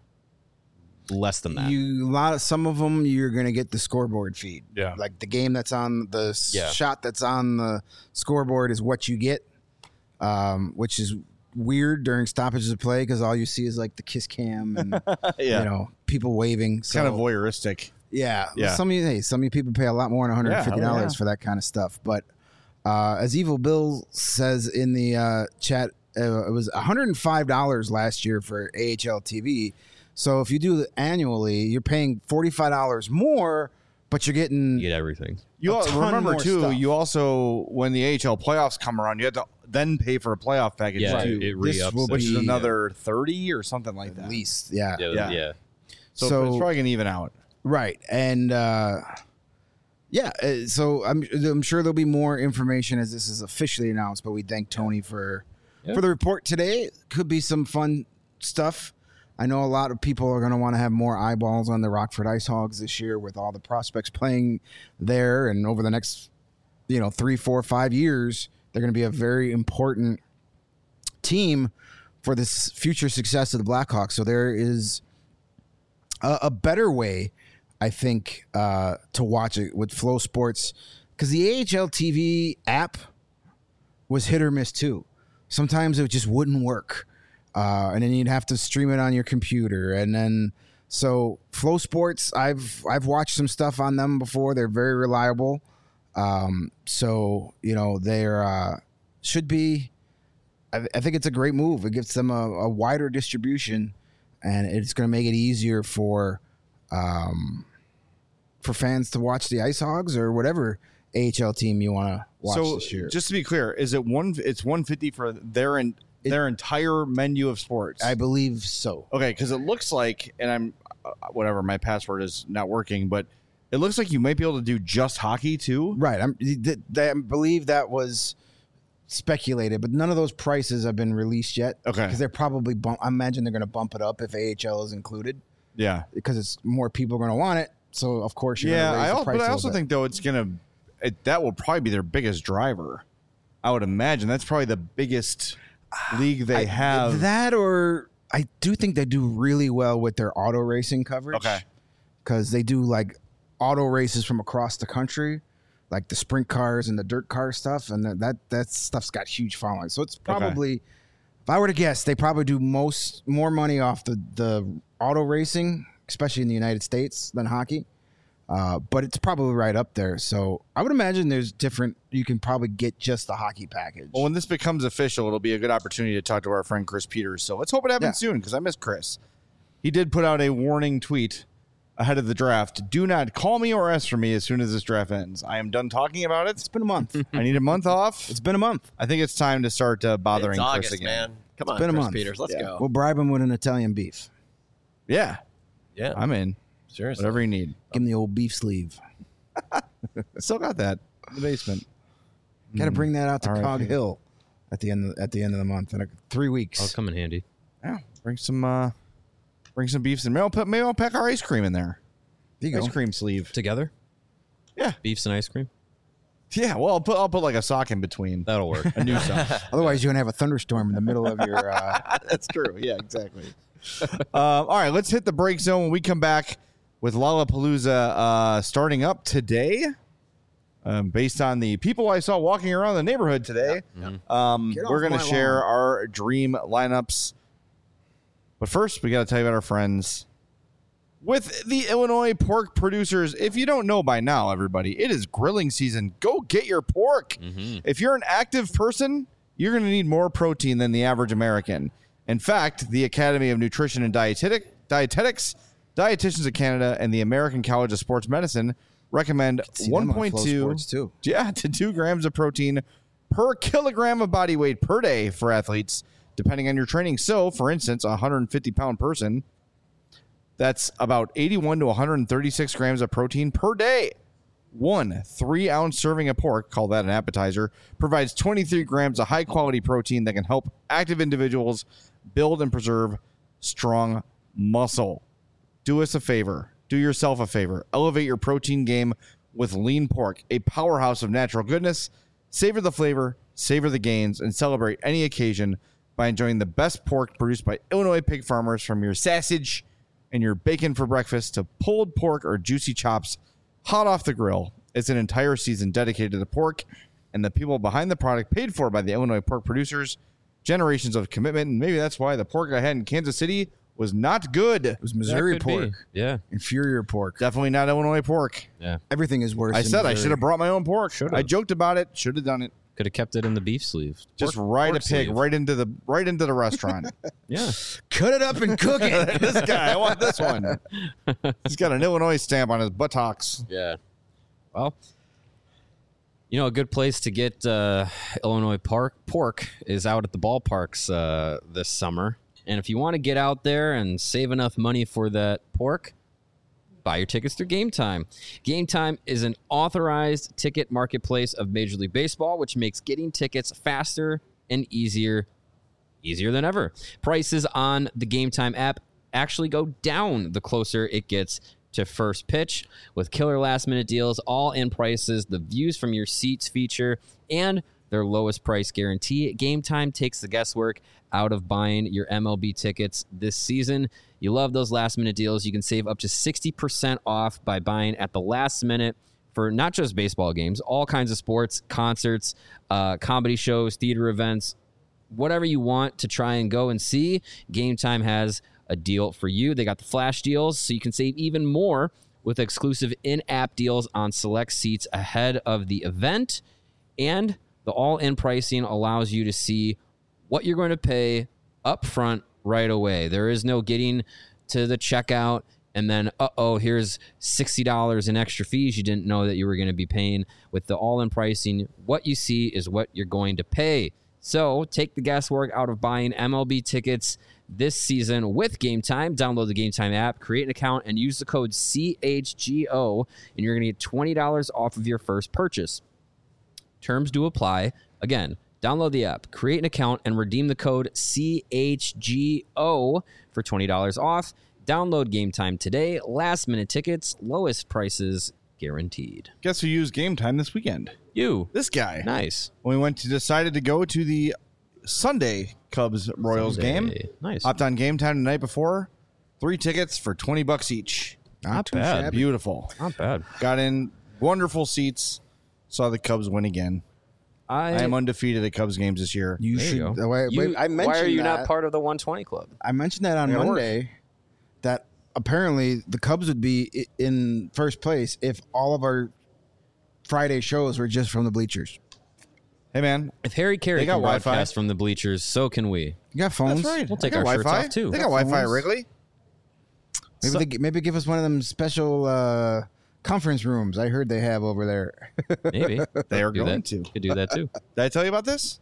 C: less than that.
D: You a lot of some of them you're going to get the scoreboard feed.
A: Yeah.
D: Like the game that's on the s-
C: Yeah.
D: shot that's on the scoreboard is what you get, um, which is weird during stoppages of play because all you see is like the kiss cam and
A: Yeah.
D: you know people waving.
A: It's
D: So,
A: kind of voyeuristic.
D: yeah,
A: Yeah.
D: Some of you, hey, some of you people pay a lot more than one hundred fifty dollars
A: Yeah, yeah.
D: for that kind of stuff. But uh, as Evil Bill says in the uh, chat, uh, it was one hundred five dollars last year for A H L T V. So if you do it annually, you're paying forty-five dollars more, but you're getting
C: You get everything.
A: You
D: A
A: all,
D: ton
A: remember
D: more
A: too.
D: stuff.
A: You also, when the A H L playoffs come around, you have to then pay for a playoff package
C: Yeah,
A: too,
C: it, it
D: This
C: re-ups
D: will
C: it.
A: which is
D: be-
A: another thirty or something like
D: at
A: that.
D: least, yeah.
C: Yeah,
A: yeah.
C: yeah.
A: So,
D: So-
A: it's probably gonna even out.
D: Right. And uh, yeah, uh, so I'm I'm sure there'll be more information as this is officially announced, but we thank Tony for
C: Yeah.
D: for the report today. Could be some fun stuff. I know a lot of people are going to want to have more eyeballs on the Rockford Ice Hogs this year with all the prospects playing there, and over the next, you know, three, four, five years, they're going to be a very important team for this future success of the Blackhawks. So there is a, a better way, I think, uh, to watch it with Flow Sports, because the A H L T V app was hit or miss too. Sometimes it just wouldn't work, uh, and then you'd have to stream it on your computer, and then so Flow Sports, I've I've watched some stuff on them before. They're very reliable, um, so you know they're uh, should be. I, I think it's a great move. It gives them a, a wider distribution, and it's going to make it easier for um, for fans to watch the Ice Hogs or whatever A H L team you want to watch
A: so
D: this year.
A: just to be clear, is it one? It's one fifty for their in,
D: It-
A: their entire menu of sports.
D: I believe so.
A: okay, because it looks like, and I'm uh, whatever, my password is not working, but it looks like you might be able to do just hockey too.
D: Right. I'm, th- th- I believe that was speculated, but none of those prices have been released yet.
A: Okay.
D: Because they're probably bump. I imagine they're going to bump it up if A H L is included
A: Yeah.
D: because it's more people are going to want it. So of course you're
A: Yeah,
D: going to raise
A: I
D: the
A: al-
D: price.
A: but I
D: a little
A: also
D: bit.
A: think though it's gonna it, that will probably be their biggest driver. I would imagine that's probably the biggest league they
D: I-
A: have.
D: that, or I do think they do really well with their auto racing coverage.
A: Okay.
D: Because they do like auto races from across the country, like the sprint cars and the dirt car stuff, and that that, that stuff's got huge following. So it's probably, if I were to guess, they probably do most more money off the the auto racing, especially in the United States, than hockey. Uh, but it's probably right up there. So I would imagine there's different. You can probably get just the hockey package.
A: Well, when this becomes official, it'll be a good opportunity to talk to our friend Chris Peters. So let's hope it happens
D: Yeah.
A: soon because I miss Chris. He did put out a warning tweet ahead of the draft. Do not call me or ask for me as soon as this draft ends. I am done talking about
D: It's
A: it.
D: been a month.
A: I need a month off.
D: It's been a month.
A: I think it's time to start uh, bothering
B: It's
A: Chris
B: August,
A: again.
B: man. Come on,
D: been a
B: Chris
D: month.
B: Peters. Let's
A: Yeah.
B: go.
D: We'll bribe him with an Italian beef.
A: Yeah,
B: yeah,
A: I'm in.
B: seriously.
A: Whatever you need.
D: Give him the old beef sleeve.
A: Still got that in the basement.
D: Got to bring that out to
A: R I P.
D: Cog Hill at the end of, at the end of the month in like three weeks.
C: I'll come in handy.
A: Yeah, bring some uh bring some beefs and maybe I'll put maybe I'll pack our ice cream in there.
D: There you go.
A: Ice cream sleeve.
C: Together?
A: Yeah.
C: Beefs and ice cream?
A: Yeah, well I'll put I'll put like a sock in between.
C: That'll work.
A: A new sock.
D: Otherwise, you're gonna have a thunderstorm in the middle of your. Uh,
A: That's true. Yeah, exactly. um, all right, let's hit the break zone when we come back with Lollapalooza uh, starting up today. Um, based on the people I saw walking around the neighborhood today, um,
D: Get off
A: we're going to
D: my
A: share
D: lawn.
A: our dream lineups. But first, we got to tell you about our friends with the Illinois pork producers. If you don't know by now, everybody, it is grilling season. Go get your pork. If you're an active person, you're going to need more protein than the average American. In fact, the Academy of Nutrition and Dietetic, Dietetics, Dietitians of Canada, and the American College of Sports Medicine recommend
D: see them on
A: one point two
D: Flow Sports, too.
A: yeah, to two grams of protein per kilogram of body weight per day for athletes, depending on your training. So, for instance, a one hundred fifty pound person, that's about eighty-one to one hundred thirty-six grams of protein per day. One three ounce serving of pork, call that an appetizer, provides twenty-three grams of high quality protein that can help active individuals build and preserve strong muscle. Do us a favor. Do yourself a favor. Elevate your protein game with lean pork, a powerhouse of natural goodness. Savor the flavor, savor the gains, and celebrate any occasion by enjoying the best pork produced by Illinois pig farmers, from your sausage and your bacon for breakfast to pulled pork or juicy chops hot off the grill. It's an entire season dedicated to the pork and the people behind the product, paid for by the Illinois pork producers. generations of commitment, and maybe that's why the pork I had in Kansas City was not good.
D: It was Missouri
C: That could be.
D: pork.
C: Yeah.
D: Inferior pork.
A: Definitely not Illinois pork.
C: Yeah.
D: Everything is worse.
A: I
D: in
A: said I
D: Missouri.
A: should have brought my own pork.
C: Should've.
A: I joked about it. Should have done it.
C: Could have kept it in the beef sleeve.
A: Just
C: Pork-
A: ride a
C: pork
A: pig
C: sleeve.
A: right into the right into the restaurant.
C: Yeah.
D: Cut it up and cook it.
A: This guy, I want this one. He's got an Illinois stamp on his buttocks.
C: Yeah. Well, you know, a good place to get uh, Illinois park pork is out at the ballparks uh, this summer. And if you want to get out there and save enough money for that pork, buy your tickets through Game Time. Game Time is an authorized ticket marketplace of Major League Baseball, which makes getting tickets faster and easier, easier than ever. Prices on the Game Time app actually go down the closer it gets to first pitch, with killer last minute deals, all in prices, the views from your seats feature, and their lowest price guarantee. Game Time takes the guesswork out of buying your M L B tickets this season. You love those last minute deals. You can save up to sixty percent off by buying at the last minute for not just baseball games, all kinds of sports, concerts, uh, comedy shows, theater events, whatever you want to try and go and see. Game Time has a deal for you. They got the flash deals, so you can save even more with exclusive in-app deals on select seats ahead of the event. And the all-in pricing allows you to see what you're going to pay up front right away. There is no getting to the checkout and then, uh-oh, here's sixty dollars in extra fees you didn't know that you were going to be paying. With the all-in pricing, what you see is what you're going to pay. So take the guesswork out of buying M L B tickets this season with Game Time. Download the Game Time app, create an account, and use the code C H G O, and you're going to get twenty dollars off of your first purchase. Terms do apply. Again, download the app, create an account, and redeem the code C H G O for twenty dollars off. Download Game Time today. Last minute tickets, lowest prices guaranteed.
A: Guess who used Game Time this weekend?
C: You.
A: This guy.
C: Nice.
A: We went to decided to go to the Sunday Cubs Royals
C: Sunday.
A: game.
C: Nice.
A: Hopped on Game Time the night before. Three tickets for twenty bucks each.
C: Not
D: too
C: bad.
D: shabby.
A: Beautiful.
C: Not bad.
A: Got in wonderful seats. Saw the Cubs win again.
C: I,
A: I am undefeated at Cubs games this year.
D: You
C: There you
D: should.
C: go.
D: Wait,
C: You-
D: wait, I mentioned
C: why are you
D: that.
C: not part of the one twenty club?
D: I mentioned that on
A: Yeah, work.
D: Monday that apparently the Cubs would be i- in first place if all of our Friday shows were just from the bleachers.
A: Hey man,
C: If Harry Carey
A: They got
C: can
A: Wi-Fi.
C: broadcast from the bleachers, so can we.
D: You got phones?
A: that's right.
C: We'll take
A: They got
C: our shirts
A: Wi-Fi.
C: off, too.
A: They got Wi-Fi at
D: Phones.
A: Wrigley.
D: Maybe
C: So-
D: they g- maybe give us one of them special uh, conference rooms. I heard they have over there.
C: Maybe.
A: They are
C: do
A: going
C: that.
A: to.
C: Could do that too.
A: Did I tell you about this,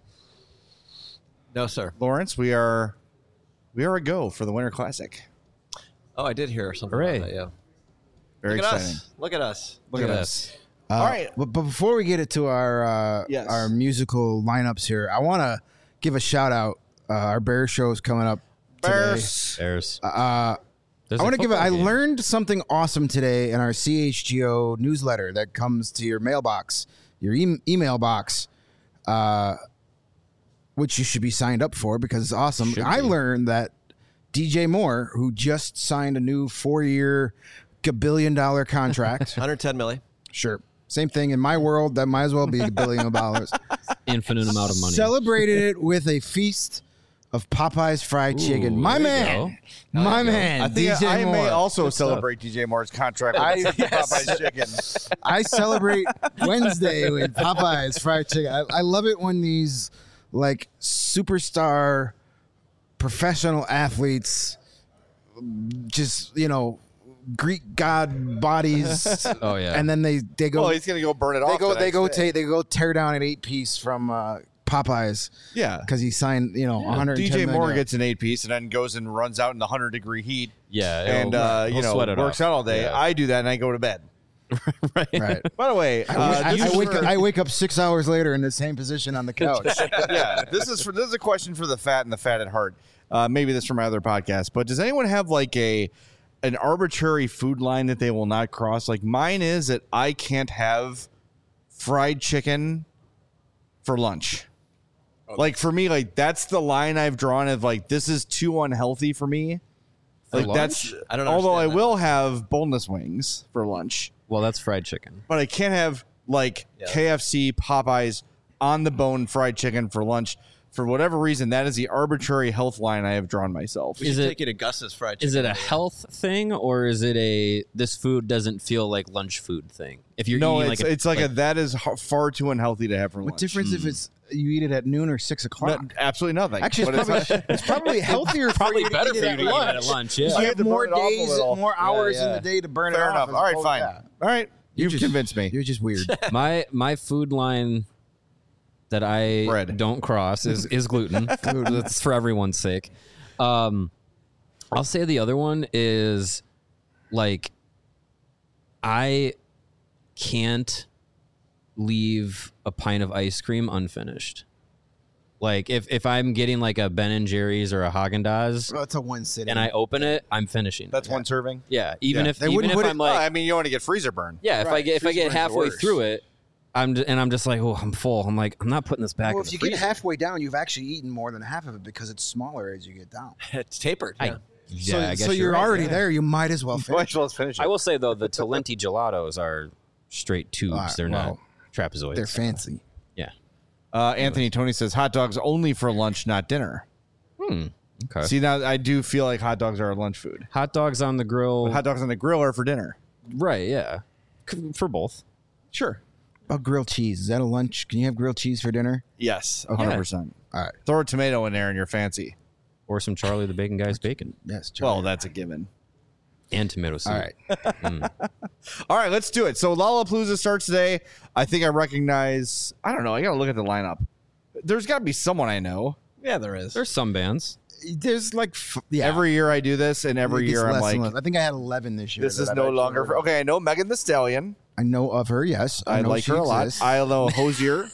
B: No, sir.
A: Lawrence? We are we are a go for the Winter Classic.
B: Oh, I did hear something
C: Hooray.
B: about that, yeah.
A: Very
B: Look at
A: exciting.
B: us. Look at us.
A: Look,
C: Look
A: at
C: at
A: us.
D: Uh,
A: All right.
D: But, but before we get into our uh,
A: Yes.
D: our musical lineups here, I want to give a shout out. Uh, our Bears show is coming up today.
A: Bears.
C: There's.
D: Uh,
C: there's
D: I
C: a
D: want to give it.
C: football
D: I
C: game.
D: learned something awesome today in our C H G O newsletter that comes to your mailbox, your e- email box, uh, which you should be signed up for because it's awesome.
C: Should
D: I
C: be.
D: learned that D J Moore, who just signed a new four-year, billion dollar contract,
B: one hundred ten milli.
D: sure, same thing in my world. That might as well be a billion dollars.
C: Infinite amount of money.
D: Celebrated it with a feast of Popeye's fried
C: Ooh,
D: chicken. My
C: there you
D: man, my man,
A: I think
D: D J
A: I, I
D: Moore.
A: may also
C: Good stuff.
A: celebrate D J Moore's contract
D: I-
A: with
D: yes.
A: Popeye's chicken.
D: I celebrate Wednesday with Popeye's fried chicken. I, I love it when these like superstar professional athletes just, you know, Greek god bodies
C: Oh yeah.
D: and then they they go
A: Well, he's gonna go burn it
D: they
A: off.
D: go
A: the
D: they
A: next
D: go
A: day.
D: take they go tear down an eight piece from uh, Popeyes
A: Yeah.
D: cuz he signed, you know, one hundred ten
A: D J
D: million
A: Moore
D: dollars.
A: gets an eight piece and then goes and runs out in the hundred degree heat
C: yeah.
A: and
C: it'll-
A: uh, you
C: he'll
A: know
C: sweat it
A: works
C: off.
A: out all day.
C: Yeah.
A: I do that and I go to bed.
C: right.
D: Right.
A: By the way, uh,
D: I,
A: this
D: I
A: is
D: wake
A: for-
D: up, I wake up six hours later in the same position on the couch.
A: yeah, this is for this is a question for the fat and the fat at heart. Uh, maybe this from my other podcast, but does anyone have like a an arbitrary food line that they will not cross? Like mine is that I can't have fried chicken for lunch. Like for me, like that's the line I've drawn of like this is too unhealthy for me.
C: For
A: Like
C: lunch?
A: that's
B: I don't
A: although I
B: understand that.
A: will have boneless wings for lunch,
C: Well, that's fried chicken.
A: but I can't have like
B: Yeah.
A: K F C, Popeyes on the bone fried chicken for lunch. for whatever reason, that is the arbitrary health line I have drawn myself.
B: We
C: Is
B: should
C: it-
B: take you to Gus's fried chicken.
C: Is it a health thing or is it a this food doesn't feel like lunch food thing? If you're
A: No,
C: eating
A: it's
C: like a,
A: it's like, a that is h- far too unhealthy to have for
D: What
A: lunch.
D: difference if it's you eat it at noon or six o'clock?
A: No, absolutely nothing.
D: Actually,
A: But
D: it's probably, it's probably healthier.
C: probably
D: for you
C: better
D: to eat
C: for
D: it
C: you
D: at
C: to eat
D: lunch.
C: it at lunch. Yeah.
A: I
D: You
A: had
D: have
A: to burn
D: more
A: it off a
D: days,
A: little.
D: more
A: Yeah,
D: hours
A: yeah.
D: in the day to burn
A: Fair
D: it
A: enough.
D: off.
A: All right,
D: as
A: fine.
D: opposed-
A: All right, you've
D: just-
A: convinced me.
D: You're just weird.
C: my my food line that I
A: Bread.
C: don't cross is is gluten. That's for everyone's sake. Um, I'll say the other one is like I can't leave a pint of ice cream unfinished. Like if if I'm getting like a Ben and Jerry's or a Haagen-Dazs
D: Well, it's a one sitting.
C: and I open it, I'm finishing.
A: That's
C: it.
A: one serving.
C: Yeah, even
A: Yeah.
C: if
D: They
C: even
D: wouldn't
C: if
D: put
C: I'm
D: it-
C: like
A: Well, I mean, you want to get freezer burn.
C: yeah, if I
D: Right,
C: get if I
D: freezer
C: get
D: burn's the
C: halfway
D: worst.
C: through it, I'm j- and I'm just like, oh, I'm full. I'm like, I'm not putting this back.
D: well,
C: in
D: if
C: the
D: you get
C: freezer.
D: halfway down, you've actually eaten more than half of it because it's smaller as you get down.
B: It's tapered.
C: I-
B: Yeah.
C: yeah,
D: so
C: I guess
D: so you're,
C: right,
D: already
C: yeah.
D: there. You might as well
A: Might
D: finish.
A: as well finish it.
C: I will say though, the Talenti gelatos are straight tubes.
D: Uh,
C: They're
D: well,
C: not trapezoids.
D: They're fancy.
C: Yeah.
A: Uh, Anthony Tony says hot dogs only for lunch, not dinner.
C: Hmm. Okay.
A: See, now I do feel like hot dogs are a lunch food.
C: Hot dogs on the grill.
A: But hot dogs on the grill are for dinner.
C: right. Yeah. C- For both.
A: Sure.
D: About grilled cheese. Is that a lunch? Can you have grilled cheese for dinner?
A: Yes, one hundred percent.
D: All right.
A: Throw a tomato in there and you're fancy.
C: Or some Charlie the Bacon Guy's bacon
D: Yes.
A: Well,
D: Charlie.
A: that's a given.
C: and tomato soup.
D: all right.
C: Mm.
A: All right, let's do it. So Lollapalooza starts today. I think I recognize, I don't know, I got to look at the lineup. There's got to be someone I know.
B: Yeah, there is.
C: There's some bands.
D: There's like f- yeah.
A: Every year I do this, and every
D: It gets
A: year I'm
D: less
A: like,
D: and less. I think I had eleven this year.
A: this
D: that
A: is
D: I've
A: no
D: actually
A: longer
D: heard
A: for.
D: of.
A: Okay, I know Megan the Stallion.
D: I know of her. Yes, I,
A: I,
D: know
A: like
D: she
A: her a lot.
D: exists.
A: I know Hosier.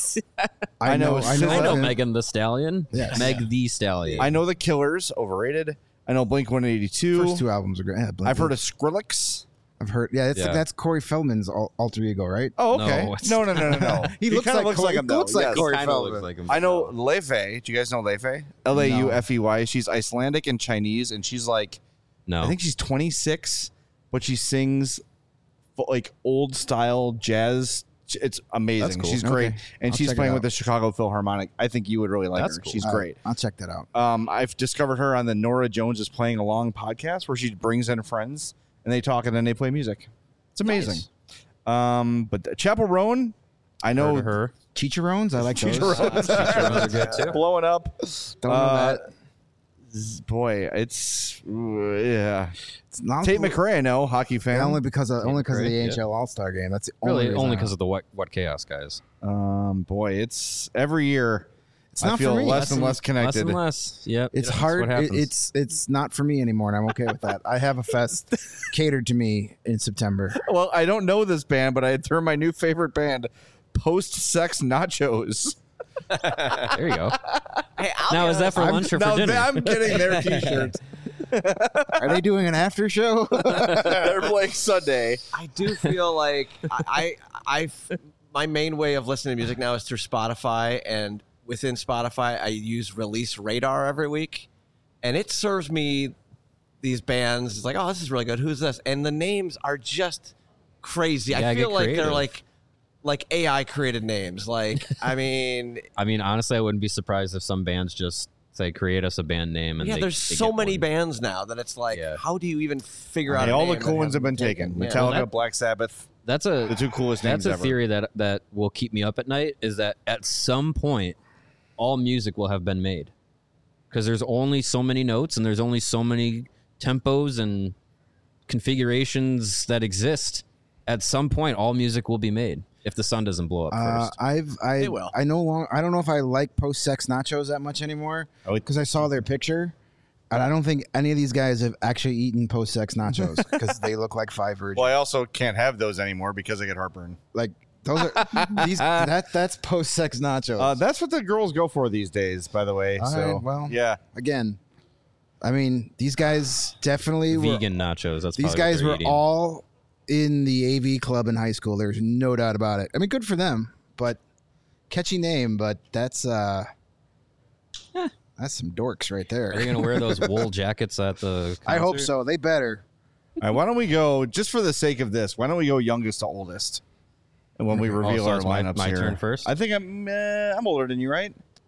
D: I
A: I know
D: know. I know.
C: I know
D: of him.
C: Megan the Stallion.
D: Yes.
C: Meg the Stallion.
A: I know the Killers, overrated. I know Blink one eighty-two.
D: First two albums are great. Yeah, Blink-
A: I've heard of Skrillex.
D: I've heard. Yeah, that's
C: Yeah.
D: that's Corey Feldman's al- alter ego, right?
A: Oh, okay.
C: No, it's
A: No, no, no, no, no.
D: He looks
A: kinda
D: like
A: looks
D: Corey-
A: like him.
D: he
A: though.
D: looks like
A: Yes.
D: Corey
C: Kinda
D: Feldman.
C: looks like him.
A: I know Leifei. Do you guys know Leifei? L A U F E Y. She's Icelandic and Chinese, and she's like,
C: No.
A: I think she's twenty-six, but she sings fo- like old style jazz. It's amazing.
D: That's cool.
A: She's great,
D: Okay.
A: and
D: I'll
A: she's
D: check it
A: playing
D: out.
A: with the Chicago Philharmonic. I think you would really like
C: That's
A: her.
C: cool.
A: She's
D: All right,
A: great.
D: I'll check that out.
A: Um, I've discovered her on the Nora Jones is Playing Along podcast, where she brings in friends and they talk and then they play music. It's amazing. Um, but the Chapel Roan, I know
C: Heard of her.
D: Chicharrones, I like those.
A: Chicharrones.
C: Chicharrones are good too.
A: blowing up.
D: Don't know
A: Uh,
D: that.
A: Z- Boy, it's ooh, yeah.
D: It's not
A: Tate McRae, I know, hockey fan.
D: Yeah, only because of only because of the
C: McRae,
D: A H L All Star game. That's the only
C: Really,
D: reason
C: only
D: I-
C: because of the what, what chaos guys.
A: Um, boy, it's every year.
D: It's
A: I
D: not
A: feel
D: for me.
A: less and less connected.
C: Less and less. Yep.
D: It's
C: That's
D: hard.
C: what
D: It,
C: happens.
D: it's it's not for me anymore, and I'm okay with that. I have a fest catered to me in September.
A: Well, I don't know this band, but I threw my new favorite band, Post Sex Nachos.
C: there you go.
B: Hey, I'll
C: Now
B: be
C: is that for
B: honest,
C: lunch or
A: Now
C: for dinner?
A: I'm getting their T-shirts.
D: Are they doing an after show?
A: They're playing Sunday.
B: I do feel like I, I, I, my main way of listening to music now is through Spotify, and within Spotify, I use Release Radar every week, and it serves me these bands. It's like, oh, this is really good. Who's this? And the names are just crazy.
C: Yeah,
B: I
C: get
B: feel like they're
C: creative.
B: like, like A I created names. Like, I mean,
C: I mean, honestly, I wouldn't be surprised if some bands just say, create us a band name. And
B: yeah,
C: they,
B: there's
C: they
B: so
C: get
B: many
C: one.
B: bands now that it's like,
C: Yeah.
B: how do you even figure out?
A: Hey,
B: a
A: all
B: name
A: the
B: that
A: cool ones have
B: hasn't
A: been taken.
B: Yeah.
A: Metallica,
C: that-
A: Black Sabbath,
C: That's a
A: the two coolest
C: that's
A: names
C: a
A: ever.
C: theory that that will keep me up at night. Is that at some point, all music will have been made, because there's only so many notes and there's only so many tempos and configurations that exist. At some point, all music will be made if the sun doesn't blow up
D: Uh,
C: first.
D: I've I
B: They will.
D: I no longer I don't know if I like post sex nachos that much anymore
A: Oh, it-
D: because I saw their picture, and I don't think any of these guys have actually eaten post sex nachos because they look like five virgins.
A: Well, I also can't have those anymore because I get heartburn.
D: Like those are these that that's post sex nachos.
A: Uh, that's what the girls go for these days, by the way.
D: All
A: so,
D: right, well,
A: yeah.
D: Again, I mean these guys definitely were,
C: Vegan nachos. That's
D: these
C: probably what
D: guys
C: they're
D: were
C: eating.
D: all in the A V club in high school. There's no doubt about it. I mean, good for them, but catchy name. But that's uh, that's some dorks right
C: Are
D: there.
C: you gonna wear those wool jackets at the?
D: I hope
C: concert?
D: so. They better.
A: All right, why don't we go, just for the sake of this, why don't we go youngest to oldest? And when we
C: Oh,
A: reveal
C: so
A: our
C: it's my-
A: lineups
C: my
A: here.
C: turn first?
A: I think I'm uh, I'm older than you, right?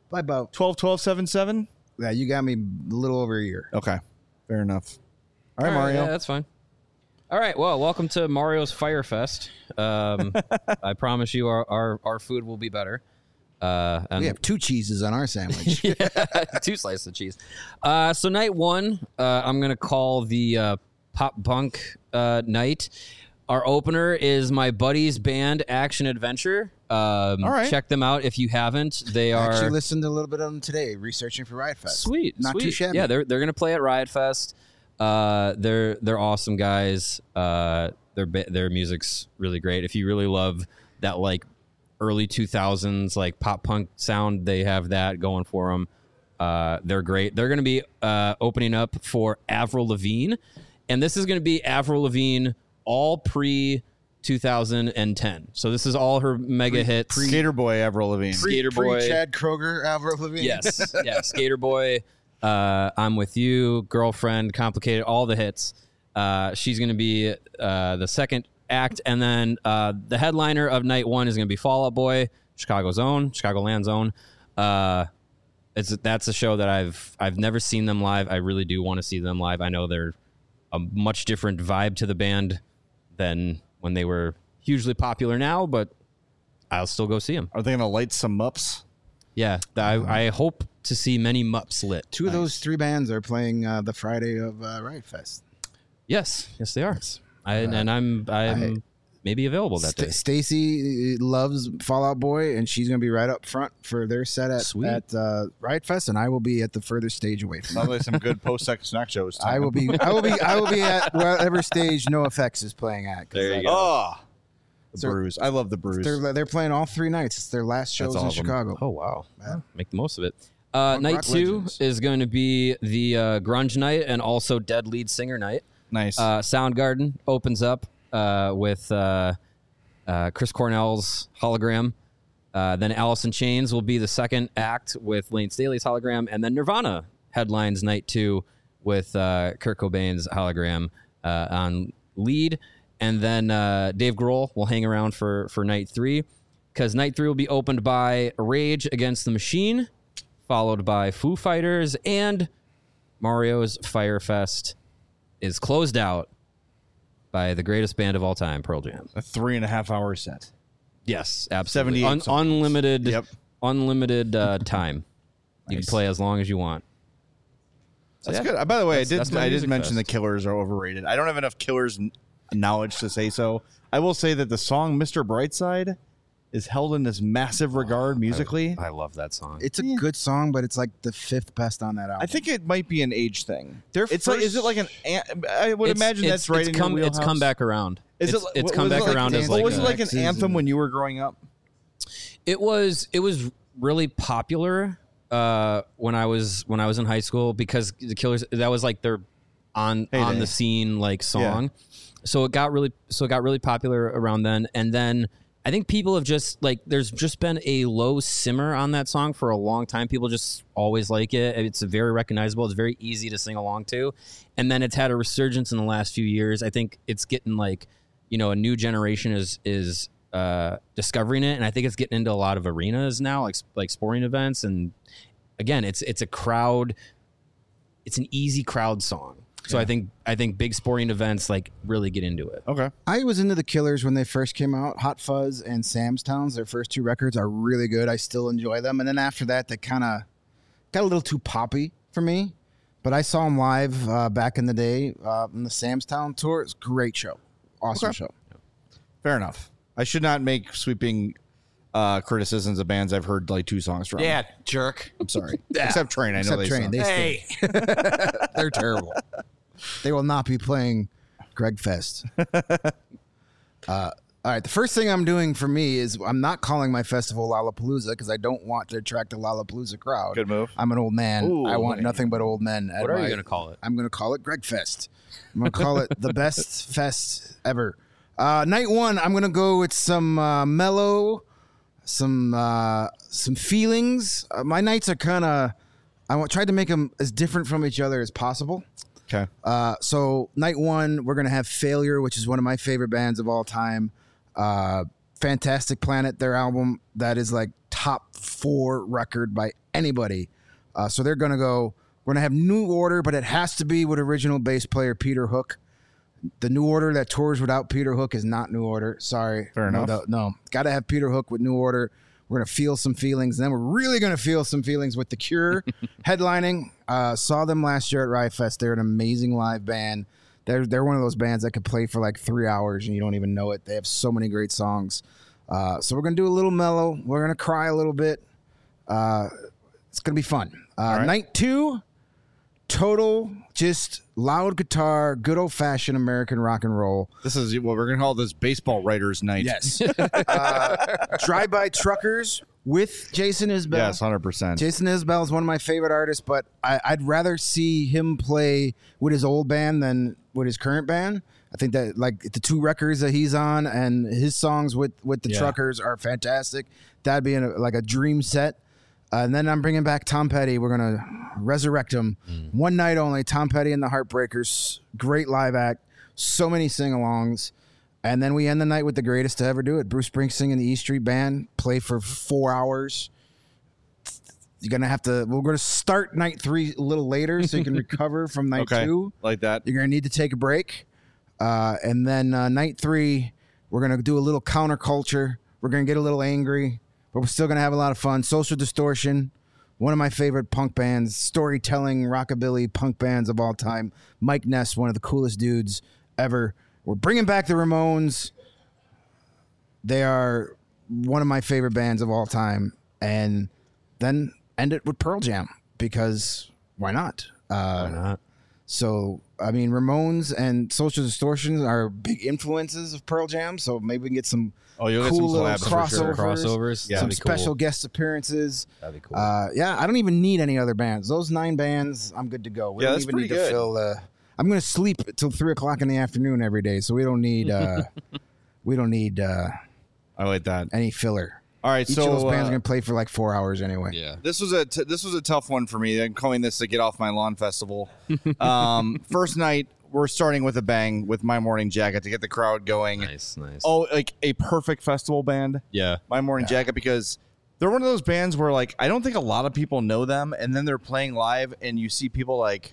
D: By about
A: twelve twelve seven seven.
D: yeah, you got me a little over a year.
A: Okay, fair enough. All right,
C: All right,
A: Mario.
C: yeah, that's fine. All right, well, welcome to Mario's Fire Fest. Um, I promise you, our, our our food will be better. Uh, and
D: We have two cheeses on our sandwich.
C: yeah, two slices of cheese. Uh, so night one, uh, I'm gonna call the uh, pop punk uh, night. Our opener is my buddy's band, Action Adventure. Um,
A: All right.
C: Check them out if you haven't. They
D: I
C: are
D: actually listened to a little bit of them today, researching for Riot Fest.
C: sweet,
D: Not
C: sweet.
D: too shabby.
C: Yeah, they're they're gonna play at Riot Fest. Uh, they're they're awesome guys. Uh, their ba- their music's really great. If you really love that like early two thousands like pop punk sound, they have that going for them. Uh, they're great. They're gonna be uh, opening up for Avril Lavigne, and this is gonna be Avril Lavigne all pre two thousand ten. So this is all her mega hits.
A: Skater Boy Avril Lavigne.
C: Skater Boy.
D: Chad Kroger, Avril Lavigne.
C: Yes, yeah, Skater Boy, uh, I'm With You, Girlfriend, Complicated, all the hits. Uh, she's going to be uh, the second act, and then uh, the headliner of night one is going to be Fall Out Boy, Chicago's own, Chicagoland's own. Uh, it's that's a show that I've I've never seen them live. I really do want to see them live. I know they're a much different vibe to the band than when they were hugely popular now, but I'll still go see them.
A: Are they gonna light some ups?
C: Yeah, I, I hope to see many mups lit.
D: Two of those three bands are playing uh, the Friday of uh, Riot Fest.
C: Yes, yes, they are. I, and I'm I'm
D: I-
C: maybe available that
D: St-
C: day.
D: Stacy loves Fall Out Boy, and she's going to be right up front for their set at,
C: Sweet.
D: at uh, Riot Fest, and I will be at the further stage away from them.
A: Sounds like some good post-sex snack shows.
D: I will be, I will be, I will be at whatever stage NoFX is playing at. 'cause
C: There you
D: that-
C: go.
A: Oh, the
D: So-
A: Bruise. I love the Bruise.
D: They're they're playing all three nights. It's their last shows
A: all
D: in
A: of them.
D: Chicago.
C: Oh wow,
D: Yeah.
C: make the most of it. Uh,
D: Punk
C: night
D: rock
C: two
D: legends.
C: is going to be the uh, grunge night and also Dead lead singer night.
A: Nice.
C: Uh, Soundgarden opens up uh, with uh, uh, Chris Cornell's Hologram. Uh, then Alice in Chains will be the second act with Lane Staley's Hologram, and then Nirvana headlines night two with uh, Kurt Cobain's Hologram uh, on lead, and then uh, Dave Grohl will hang around for for night three, because night three will be opened by Rage Against the Machine, followed by Foo Fighters, and Mario's Fire Fest is closed out by the greatest band of all time, Pearl Jam.
A: a three and a half hour set.
C: Yes, absolutely.
A: seventy-eight
C: Un-
A: songs.
C: unlimited,
A: Yep.
C: unlimited uh, time. You
A: Nice.
C: can play as long as you want. So,
A: That's
C: yeah.
A: good. By the way,
C: That's-
A: I did
C: that's my
A: I did
C: music
A: mention
C: fest.
A: the Killers are overrated. I don't have enough Killers n- knowledge to say so. I will say that the song "Mister Brightside" is held in this massive regard musically.
C: I love that song.
D: It's a good song, but it's like the fifth best on that album.
A: I think it might be an age thing.
B: Their
A: It's like, is it like an? an- I would
C: It's-
A: imagine
C: it's-
A: that's right
C: it's
A: in
C: come,
A: your
C: It's
A: wheelhouse.
C: come back around.
A: Is
C: it's,
A: it?
C: it's
A: was
C: come
A: it
C: back
A: like
C: around as
A: But
C: like
A: was
C: a-
A: it like an
D: X's
A: anthem
D: and-
A: when you were growing up?
C: It was it was really popular uh, when I was when I was in high school, because the Killers, that was like their on
A: Heyday.
C: on the scene like song. So it got really so it got really popular around then, and then I think people have just like there's just been a low simmer on that song for a long time. People just always like it. It's very recognizable. It's very easy to sing along to, and then it's had a resurgence in the last few years. I think it's getting like, you know, a new generation is is uh, discovering it, and I think it's getting into a lot of arenas now, like like sporting events. And again, it's it's a crowd. It's an easy crowd song. So I think I think big sporting events like really get into it.
A: Okay.
D: I was into the Killers when they first came out. Hot Fuzz and Sam's Towns, their first two records, are really good. I still enjoy them. And then after that, they kind of got a little too poppy for me. But I saw them live uh, back in the day uh, on the Sam's Town tour. It's a great show. Awesome
A: Okay.
D: show.
A: Fair enough. I should not make sweeping uh, criticisms of bands I've heard like two songs from.
B: Yeah, jerk.
A: I'm sorry. Except Train. I know
D: Except
A: they
D: Train.
A: suck.
D: They
B: Hey,
D: stink. They're terrible. They will not be playing Greg Fest. uh, all right. The first thing I'm doing for me is I'm not calling my festival Lollapalooza because I don't want to attract a Lollapalooza crowd.
A: Good move.
D: I'm an old man.
A: Ooh,
D: I want
A: hey.
D: nothing but old men. at
C: What are
D: my-
C: you going to call it?
D: I'm going to call it Greg Fest. I'm going to call it the best fest ever. Uh, night one, I'm going to go with some uh, mellow, some uh, some feelings. Uh, my nights are kind of, I wa- tried to make them as different from each other as possible.
A: Okay.
D: Uh, so night one, we're gonna have Failure, which is one of my favorite bands of all time. Uh, Fantastic Planet, their album that is like top four record by anybody. Uh, so they're going to go, we're going to have New Order, but it has to be with original bass player Peter Hook. The New Order that tours without Peter Hook is not New Order. Sorry.
A: Fair
D: no,
A: enough.
D: No, got to have Peter Hook with New Order. We're going to feel some feelings. And then we're really going to feel some feelings with The Cure headlining. Uh, saw them last year at Riot Fest. They're an amazing live band. They're, they're one of those bands that could play for like three hours and you don't even know it. They have so many great songs. Uh, so we're going to do a little mellow. We're going to cry a little bit. Uh, it's going to be fun. Uh,
A: right.
D: Night two, total, just loud guitar, good old-fashioned American rock and roll.
A: This is what we're going to call this baseball writers' night.
D: Yes. uh, Drive-By Truckers with Jason Isbell.
A: Yes, one hundred percent.
D: Jason Isbell is one of my favorite artists, but I, I'd rather see him play with his old band than with his current band. I think that like the two records that he's on and his songs with, with the
C: Yeah.
D: Truckers are fantastic. That'd be a, like a dream set. Uh, and then I'm bringing back Tom Petty. We're going to resurrect him. Mm. One night only, Tom Petty and the Heartbreakers. Great live act. So many sing-alongs. And then we end the night with the greatest to ever do it. Bruce Springsteen and the E Street Band play for four hours. You're going to have to, we're going to start night three a little later so you can recover from night
A: Okay,
D: two.
A: like that.
D: You're going to need to take a break. Uh, and then uh, night three, we're going to do a little counterculture. We're going to get a little angry, but we're still going to have a lot of fun. Social Distortion, one of my favorite punk bands, storytelling, rockabilly punk bands of all time. Mike Ness, one of the coolest dudes ever. We're bringing back the Ramones. They are one of my favorite bands of all time. And then end it with Pearl Jam because why not? Uh,
C: Why not?
D: So, I mean, Ramones and Social Distortion are big influences of Pearl Jam. So maybe we can get some
A: Oh, you'll get
D: cool
A: some
D: little
A: collabs for sure.
D: crossovers,
C: Crossovers.
A: Yeah.
D: some
C: That'd be
D: special
C: cool.
D: guest appearances.
C: That'd be cool.
D: Uh, yeah, I don't even need any other bands. Those nine bands, I'm good to go. We
A: Yeah,
D: don't
A: that's
D: even
A: pretty
D: need
A: good.
D: to fill. Uh, I'm going to sleep till three o'clock in the afternoon every day, so we don't need. Uh, we don't need uh,
A: I like that.
D: any filler.
A: All right,
D: Each
A: so
D: of those bands
A: uh,
D: are going to play for like four hours anyway.
C: yeah.
A: this was a t- this was a tough one for me. I'm calling this the Get Off My Lawn Festival. um, first night, we're starting with a bang with My Morning Jacket to get the crowd going.
C: Nice, nice.
A: Oh, like a perfect festival band,
C: yeah.
A: My Morning Jacket, because they're one of those bands where like I don't think a lot of people know them, and then they're playing live, and you see people like,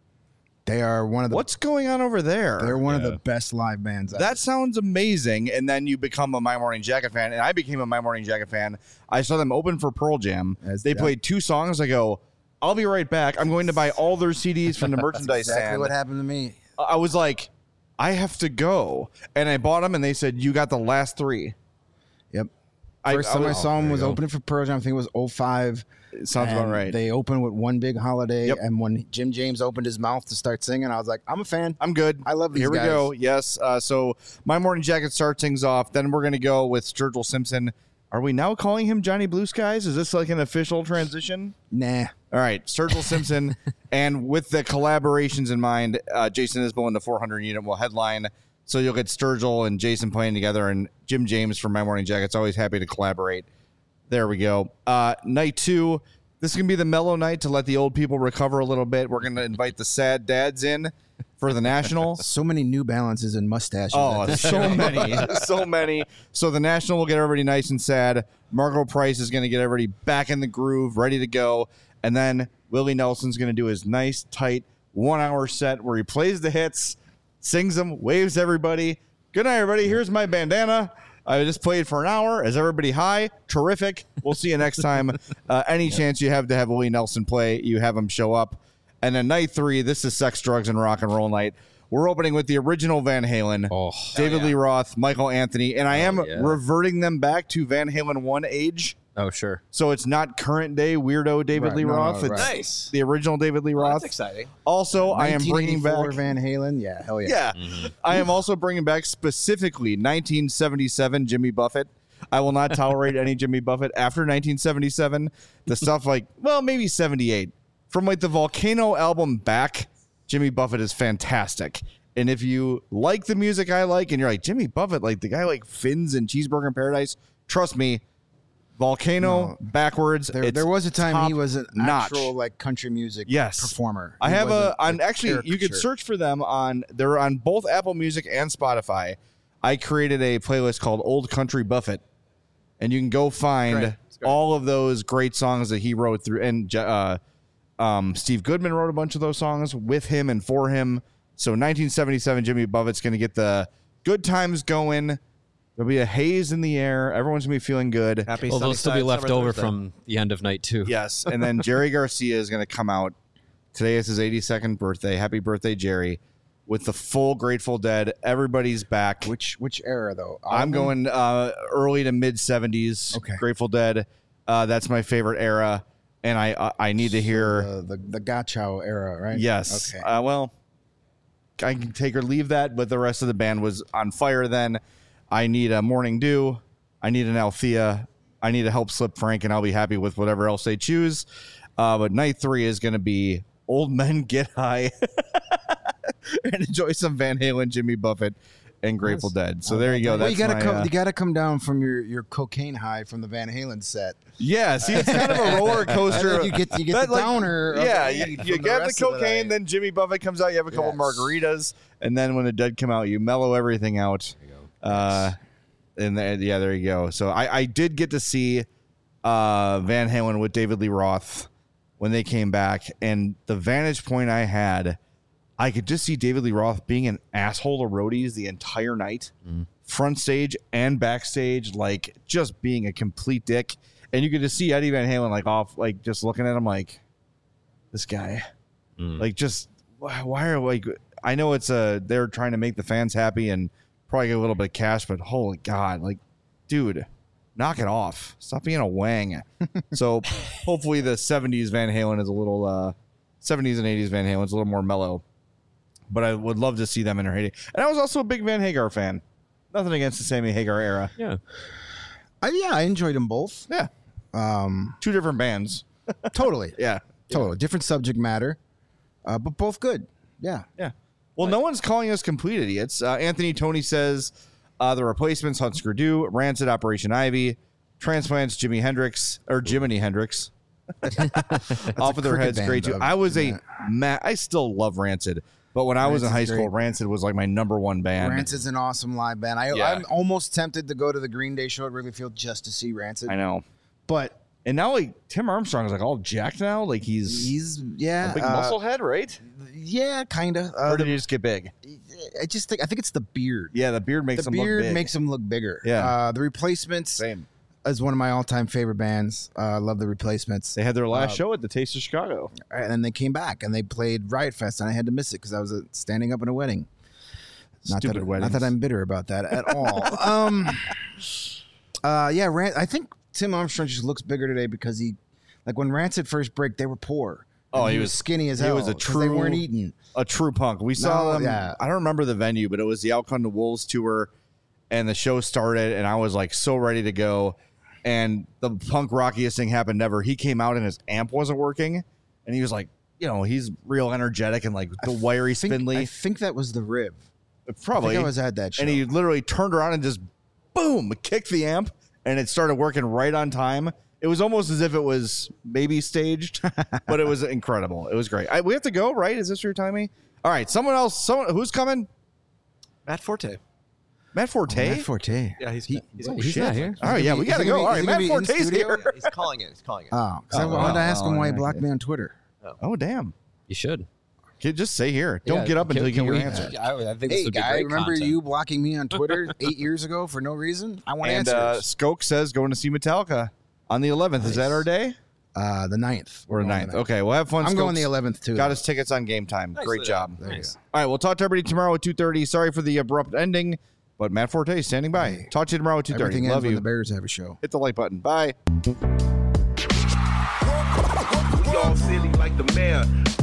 D: They are one of the.
A: what's going on over there?
D: They're one of
C: Yeah.
D: the best live bands. ever.
A: That sounds amazing. And then you become a My Morning Jacket fan. And I became a My Morning Jacket fan. I saw them open for Pearl Jam.
D: As-
A: they
D: yeah.
A: played two songs. I go, I'll be right back. I'm going to buy all their C Ds from the merchandise
D: exactly
A: stand.
D: what happened to me.
A: I was like, I have to go. And I bought them, and they said, you got the last three.
D: Yep.
A: I-
D: First
A: I
D: time I,
A: was-
D: saw
C: there
D: them
C: you
D: was
C: go.
D: opening for Pearl Jam. I think it was oh five.
A: It sounds about
D: And
A: right.
D: They opened with One Big Holiday,
A: Yep.
D: and when Jim James opened his mouth to start singing, I was like, I'm a fan.
A: I'm good.
D: I love these
A: Here we
D: guys.
A: go. Yes. Uh, so My Morning Jacket starts things off. Then we're going to go with Sturgill Simpson. Are we now calling him Johnny Blue Skies? Is this like an official transition?
D: Nah.
A: All right, Sturgill Simpson, and with the collaborations in mind, uh, Jason Isbell and the four hundred unit will headline. So you'll get Sturgill and Jason playing together, and Jim James from My Morning Jacket's always happy to collaborate. There we go. Uh, night two, this is going to be the mellow night to let the old people recover a little bit. We're going to invite the sad dads in for the National.
D: So many New Balances and mustaches.
A: Oh,
D: at this
A: so
D: show.
A: many, so many. So the National will get everybody nice and sad. Margot Price is going to get everybody back in the groove, ready to go. And then Willie Nelson's going to do his nice, tight one-hour set where he plays the hits, sings them, waves everybody. Good night, everybody. Here's my bandana. I just played for an hour. Is everybody high? Terrific. We'll see you next time. Uh, any chance you have to have Willie Nelson play, you have him show up. And then night three, this is Sex, Drugs, and Rock and Roll night. We're opening with the original Van Halen,
C: Oh,
A: David Lee Roth, Michael Anthony, and I am
C: yeah.
A: reverting them back to Van Halen one age.
C: oh, sure.
A: So it's not current day weirdo David
D: Right,
A: Lee
D: no, no,
A: Roth.
D: right.
A: It's
B: Nice.
A: the original David Lee
B: Well,
A: Roth.
B: that's exciting.
A: Also, I am bringing back.
D: nineteen eighty-four Van Halen. Yeah, hell yeah.
A: Yeah, I am also bringing back specifically nineteen seventy-seven Jimmy Buffett. I will not tolerate any Jimmy Buffett after nineteen seventy-seven. The stuff like, well, maybe seventy-eight. From like the Volcano album back, Jimmy Buffett is fantastic. And if you like the music I like and you're like, Jimmy Buffett, like the guy like Fins and Cheeseburger in Paradise, trust me, Volcano
D: No.
A: backwards.
D: There,
A: it's
D: there was a time he
A: top
D: was an
A: notch.
D: actual like country music
A: Yes.
D: performer.
A: I
D: He
A: have
D: was
A: a on actually you could
D: caricature.
A: search for them on they're on both Apple Music and Spotify. I created a playlist called Old Country Buffett. and you can go find
B: Great.
A: all of those great songs that he wrote through. And uh, um, Steve Goodman wrote a bunch of those songs with him and for him. So nineteen seventy-seven, Jimmy Buffett's going to get the good times going. There'll be a haze in the air. Everyone's going to be feeling good.
B: Happy
C: Well, they'll still be
B: Sunnyside
C: left
B: Summer
C: over
B: Thursday.
C: from the end of night two.
A: Yes. And then Jerry Garcia is going to come out. Today is his eighty-second birthday. Happy birthday, Jerry. With the full Grateful Dead. Everybody's back.
D: Which which era though?
A: I'm going uh, early to mid seventies.
D: Okay.
A: Grateful Dead. Uh, that's my favorite era. And I uh, I need to hear.
D: the the, the Gachow era, right?
A: Yes.
D: Okay.
A: Uh, well, I can take or leave that, but the rest of the band was on fire then. I need a Morning Dew. I need an Althea. I need to help Slip Frank, and I'll be happy with whatever else they choose. Uh, but night three is going to be Old Men Get High and enjoy some Van Halen, Jimmy Buffett, and Grateful Dead. So there you go.
D: Well,
A: That's
D: you gotta
A: my,
D: come.
A: uh,
D: You gotta come down from your, your cocaine high from the Van Halen set.
A: yeah, see, it's kind of a roller coaster.
D: And then you get you get
A: That,
D: the
A: like,
D: downer. of
A: Yeah,
D: the
A: you,
D: weed
A: you
D: from
A: get the
D: rest of
A: cocaine,
D: night.
A: then Jimmy Buffett comes out. You have a couple
D: Yes.
A: margaritas, and then when the Dead come out, you mellow everything out. Uh, and then, yeah, there you go. So I, I did get to see uh, Van Halen with David Lee Roth when they came back, and the vantage point I had, I could just see David Lee Roth being an asshole to roadies the entire night, front stage and backstage, like just being a complete dick. And you could just see Eddie Van Halen like off, like just looking at him like, this guy, like just why why are like I know it's a they're trying to make the fans happy and probably get a little bit of cash, but holy God, like, dude, knock it off. Stop being a wang. So hopefully the seventies Van Halen is a little uh, seventies and eighties Van Halen's a little more mellow. But I would love to see them in their heyday. And I was also a big Van Hagar fan. Nothing against the Sammy Hagar era.
C: Yeah.
D: I, yeah, I enjoyed them both.
A: Yeah.
D: Um,
A: Two different bands.
D: totally,
A: Yeah.
D: totally different subject matter, uh, but both good. Yeah.
A: Yeah. Well, no one's calling us complete idiots. Uh, Anthony Tony says uh, the replacements, Husker Du, Rancid, Operation Ivy, Transplants, Jimi Hendrix, or Jiminy Hendrix. Off of their
D: cricket
A: heads,
D: band,
A: great too.
D: though.
A: I was a
D: Yeah.
A: ma- I still love Rancid, but when I was in high
D: Rancid's
A: school,
D: great.
A: Rancid was like my number one band.
D: Rancid's an awesome live band. I,
A: Yeah.
D: I'm almost tempted to go to the Green Day show at Wrigley Field just to see Rancid.
A: I know.
D: But
A: And now, like Tim Armstrong is like all jacked now. Like he's,
D: he's yeah,
A: a big
D: uh,
A: muscle head, right?
D: yeah, kind of. Uh,
A: or did he just get big?
D: I just think I think it's the beard.
A: Yeah, the beard makes
D: the
A: him look
D: beard
A: big.
D: makes him look bigger.
A: Yeah.
D: Uh, the Replacements
A: Same.
D: is one of my all-time favorite bands. Uh, I love the Replacements.
A: They had their last
D: Uh,
A: show at the Taste of Chicago.
D: And then they came back and they played Riot Fest, and I had to miss it because I was uh, standing up in a wedding. Not
A: Stupid
D: that,
A: weddings.
D: Not that I'm bitter about that at all. um, uh, yeah, Ran- I think Tim Armstrong just looks bigger today because he, like when Rancid first break, they were poor.
A: Oh,
D: And
A: he was-
D: skinny as
A: he
D: hell.
A: was a
D: 'cause They
A: true-
D: weren't eating.
A: A true punk. We saw
D: No,
A: them.
D: yeah.
A: I don't remember the venue, but it was the Outcome to Wolves tour, and the show started, and I was like so ready to go. And the punk rockiest thing happened ever. He came out and his amp wasn't working, and he was like, you know, he's real energetic and like the wiry,
D: I think,
A: spindly.
D: I think that was the rib.
A: Probably.
D: I think I was at that show.
A: and he literally turned around and just boom, kicked the amp, and it started working right on time. It was almost as if it was maybe staged, but it was incredible. It was great. I, we have to go, right? Is this your timing? All right, someone else. Someone who's coming?
B: Matt Forte.
A: Matt Forte.
D: Matt Forte.
B: Yeah, he's
D: He-
B: he's,
C: Wait, he's
A: Shit.
C: not here.
A: All right, yeah, we
D: Is he
A: gotta
D: gonna
A: go.
D: be-
A: All
D: is
A: right,
D: he
A: Matt
D: gonna be in
A: Forte's
D: studio?
A: here.
B: he's calling it. He's calling it.
D: Oh, because I
A: Oh,
D: wanted to
A: wow.
D: ask him why he
A: Oh,
D: blocked
A: okay.
D: me on Twitter.
A: Oh damn!
C: You should.
A: Kid, just say here. Don't
C: Yeah,
A: get up
C: can-
A: until you
C: can
A: get your
C: we-
A: answer.
C: I, I think this
D: Hey,
C: would be
D: guy,
C: great
D: remember
C: content.
D: you blocking me on Twitter eight years ago for no reason? I want
A: And
D: answers.
A: uh, Skoke says going to see Metallica on the eleventh. Is that our day
D: Uh, the ninth.
A: or
D: We're going
A: ninth?
D: the ninth.
A: Okay, we'll have fun.
D: I'm going
A: Skoke's
D: the eleventh too.
A: Got
D: though.
A: his tickets on Game Time. Great
B: Nicely
A: job.
B: done.
C: Nice.
A: All right, we'll talk to everybody tomorrow at two thirty. Sorry for the abrupt ending, but Matt Forte is standing by.
D: Hey,
A: Talk to you tomorrow at two thirty.
D: Everything ends
A: Love
D: when
A: you.
D: the Bears have a show.
A: Hit the like button. Bye.
E: We all silly like the mayor.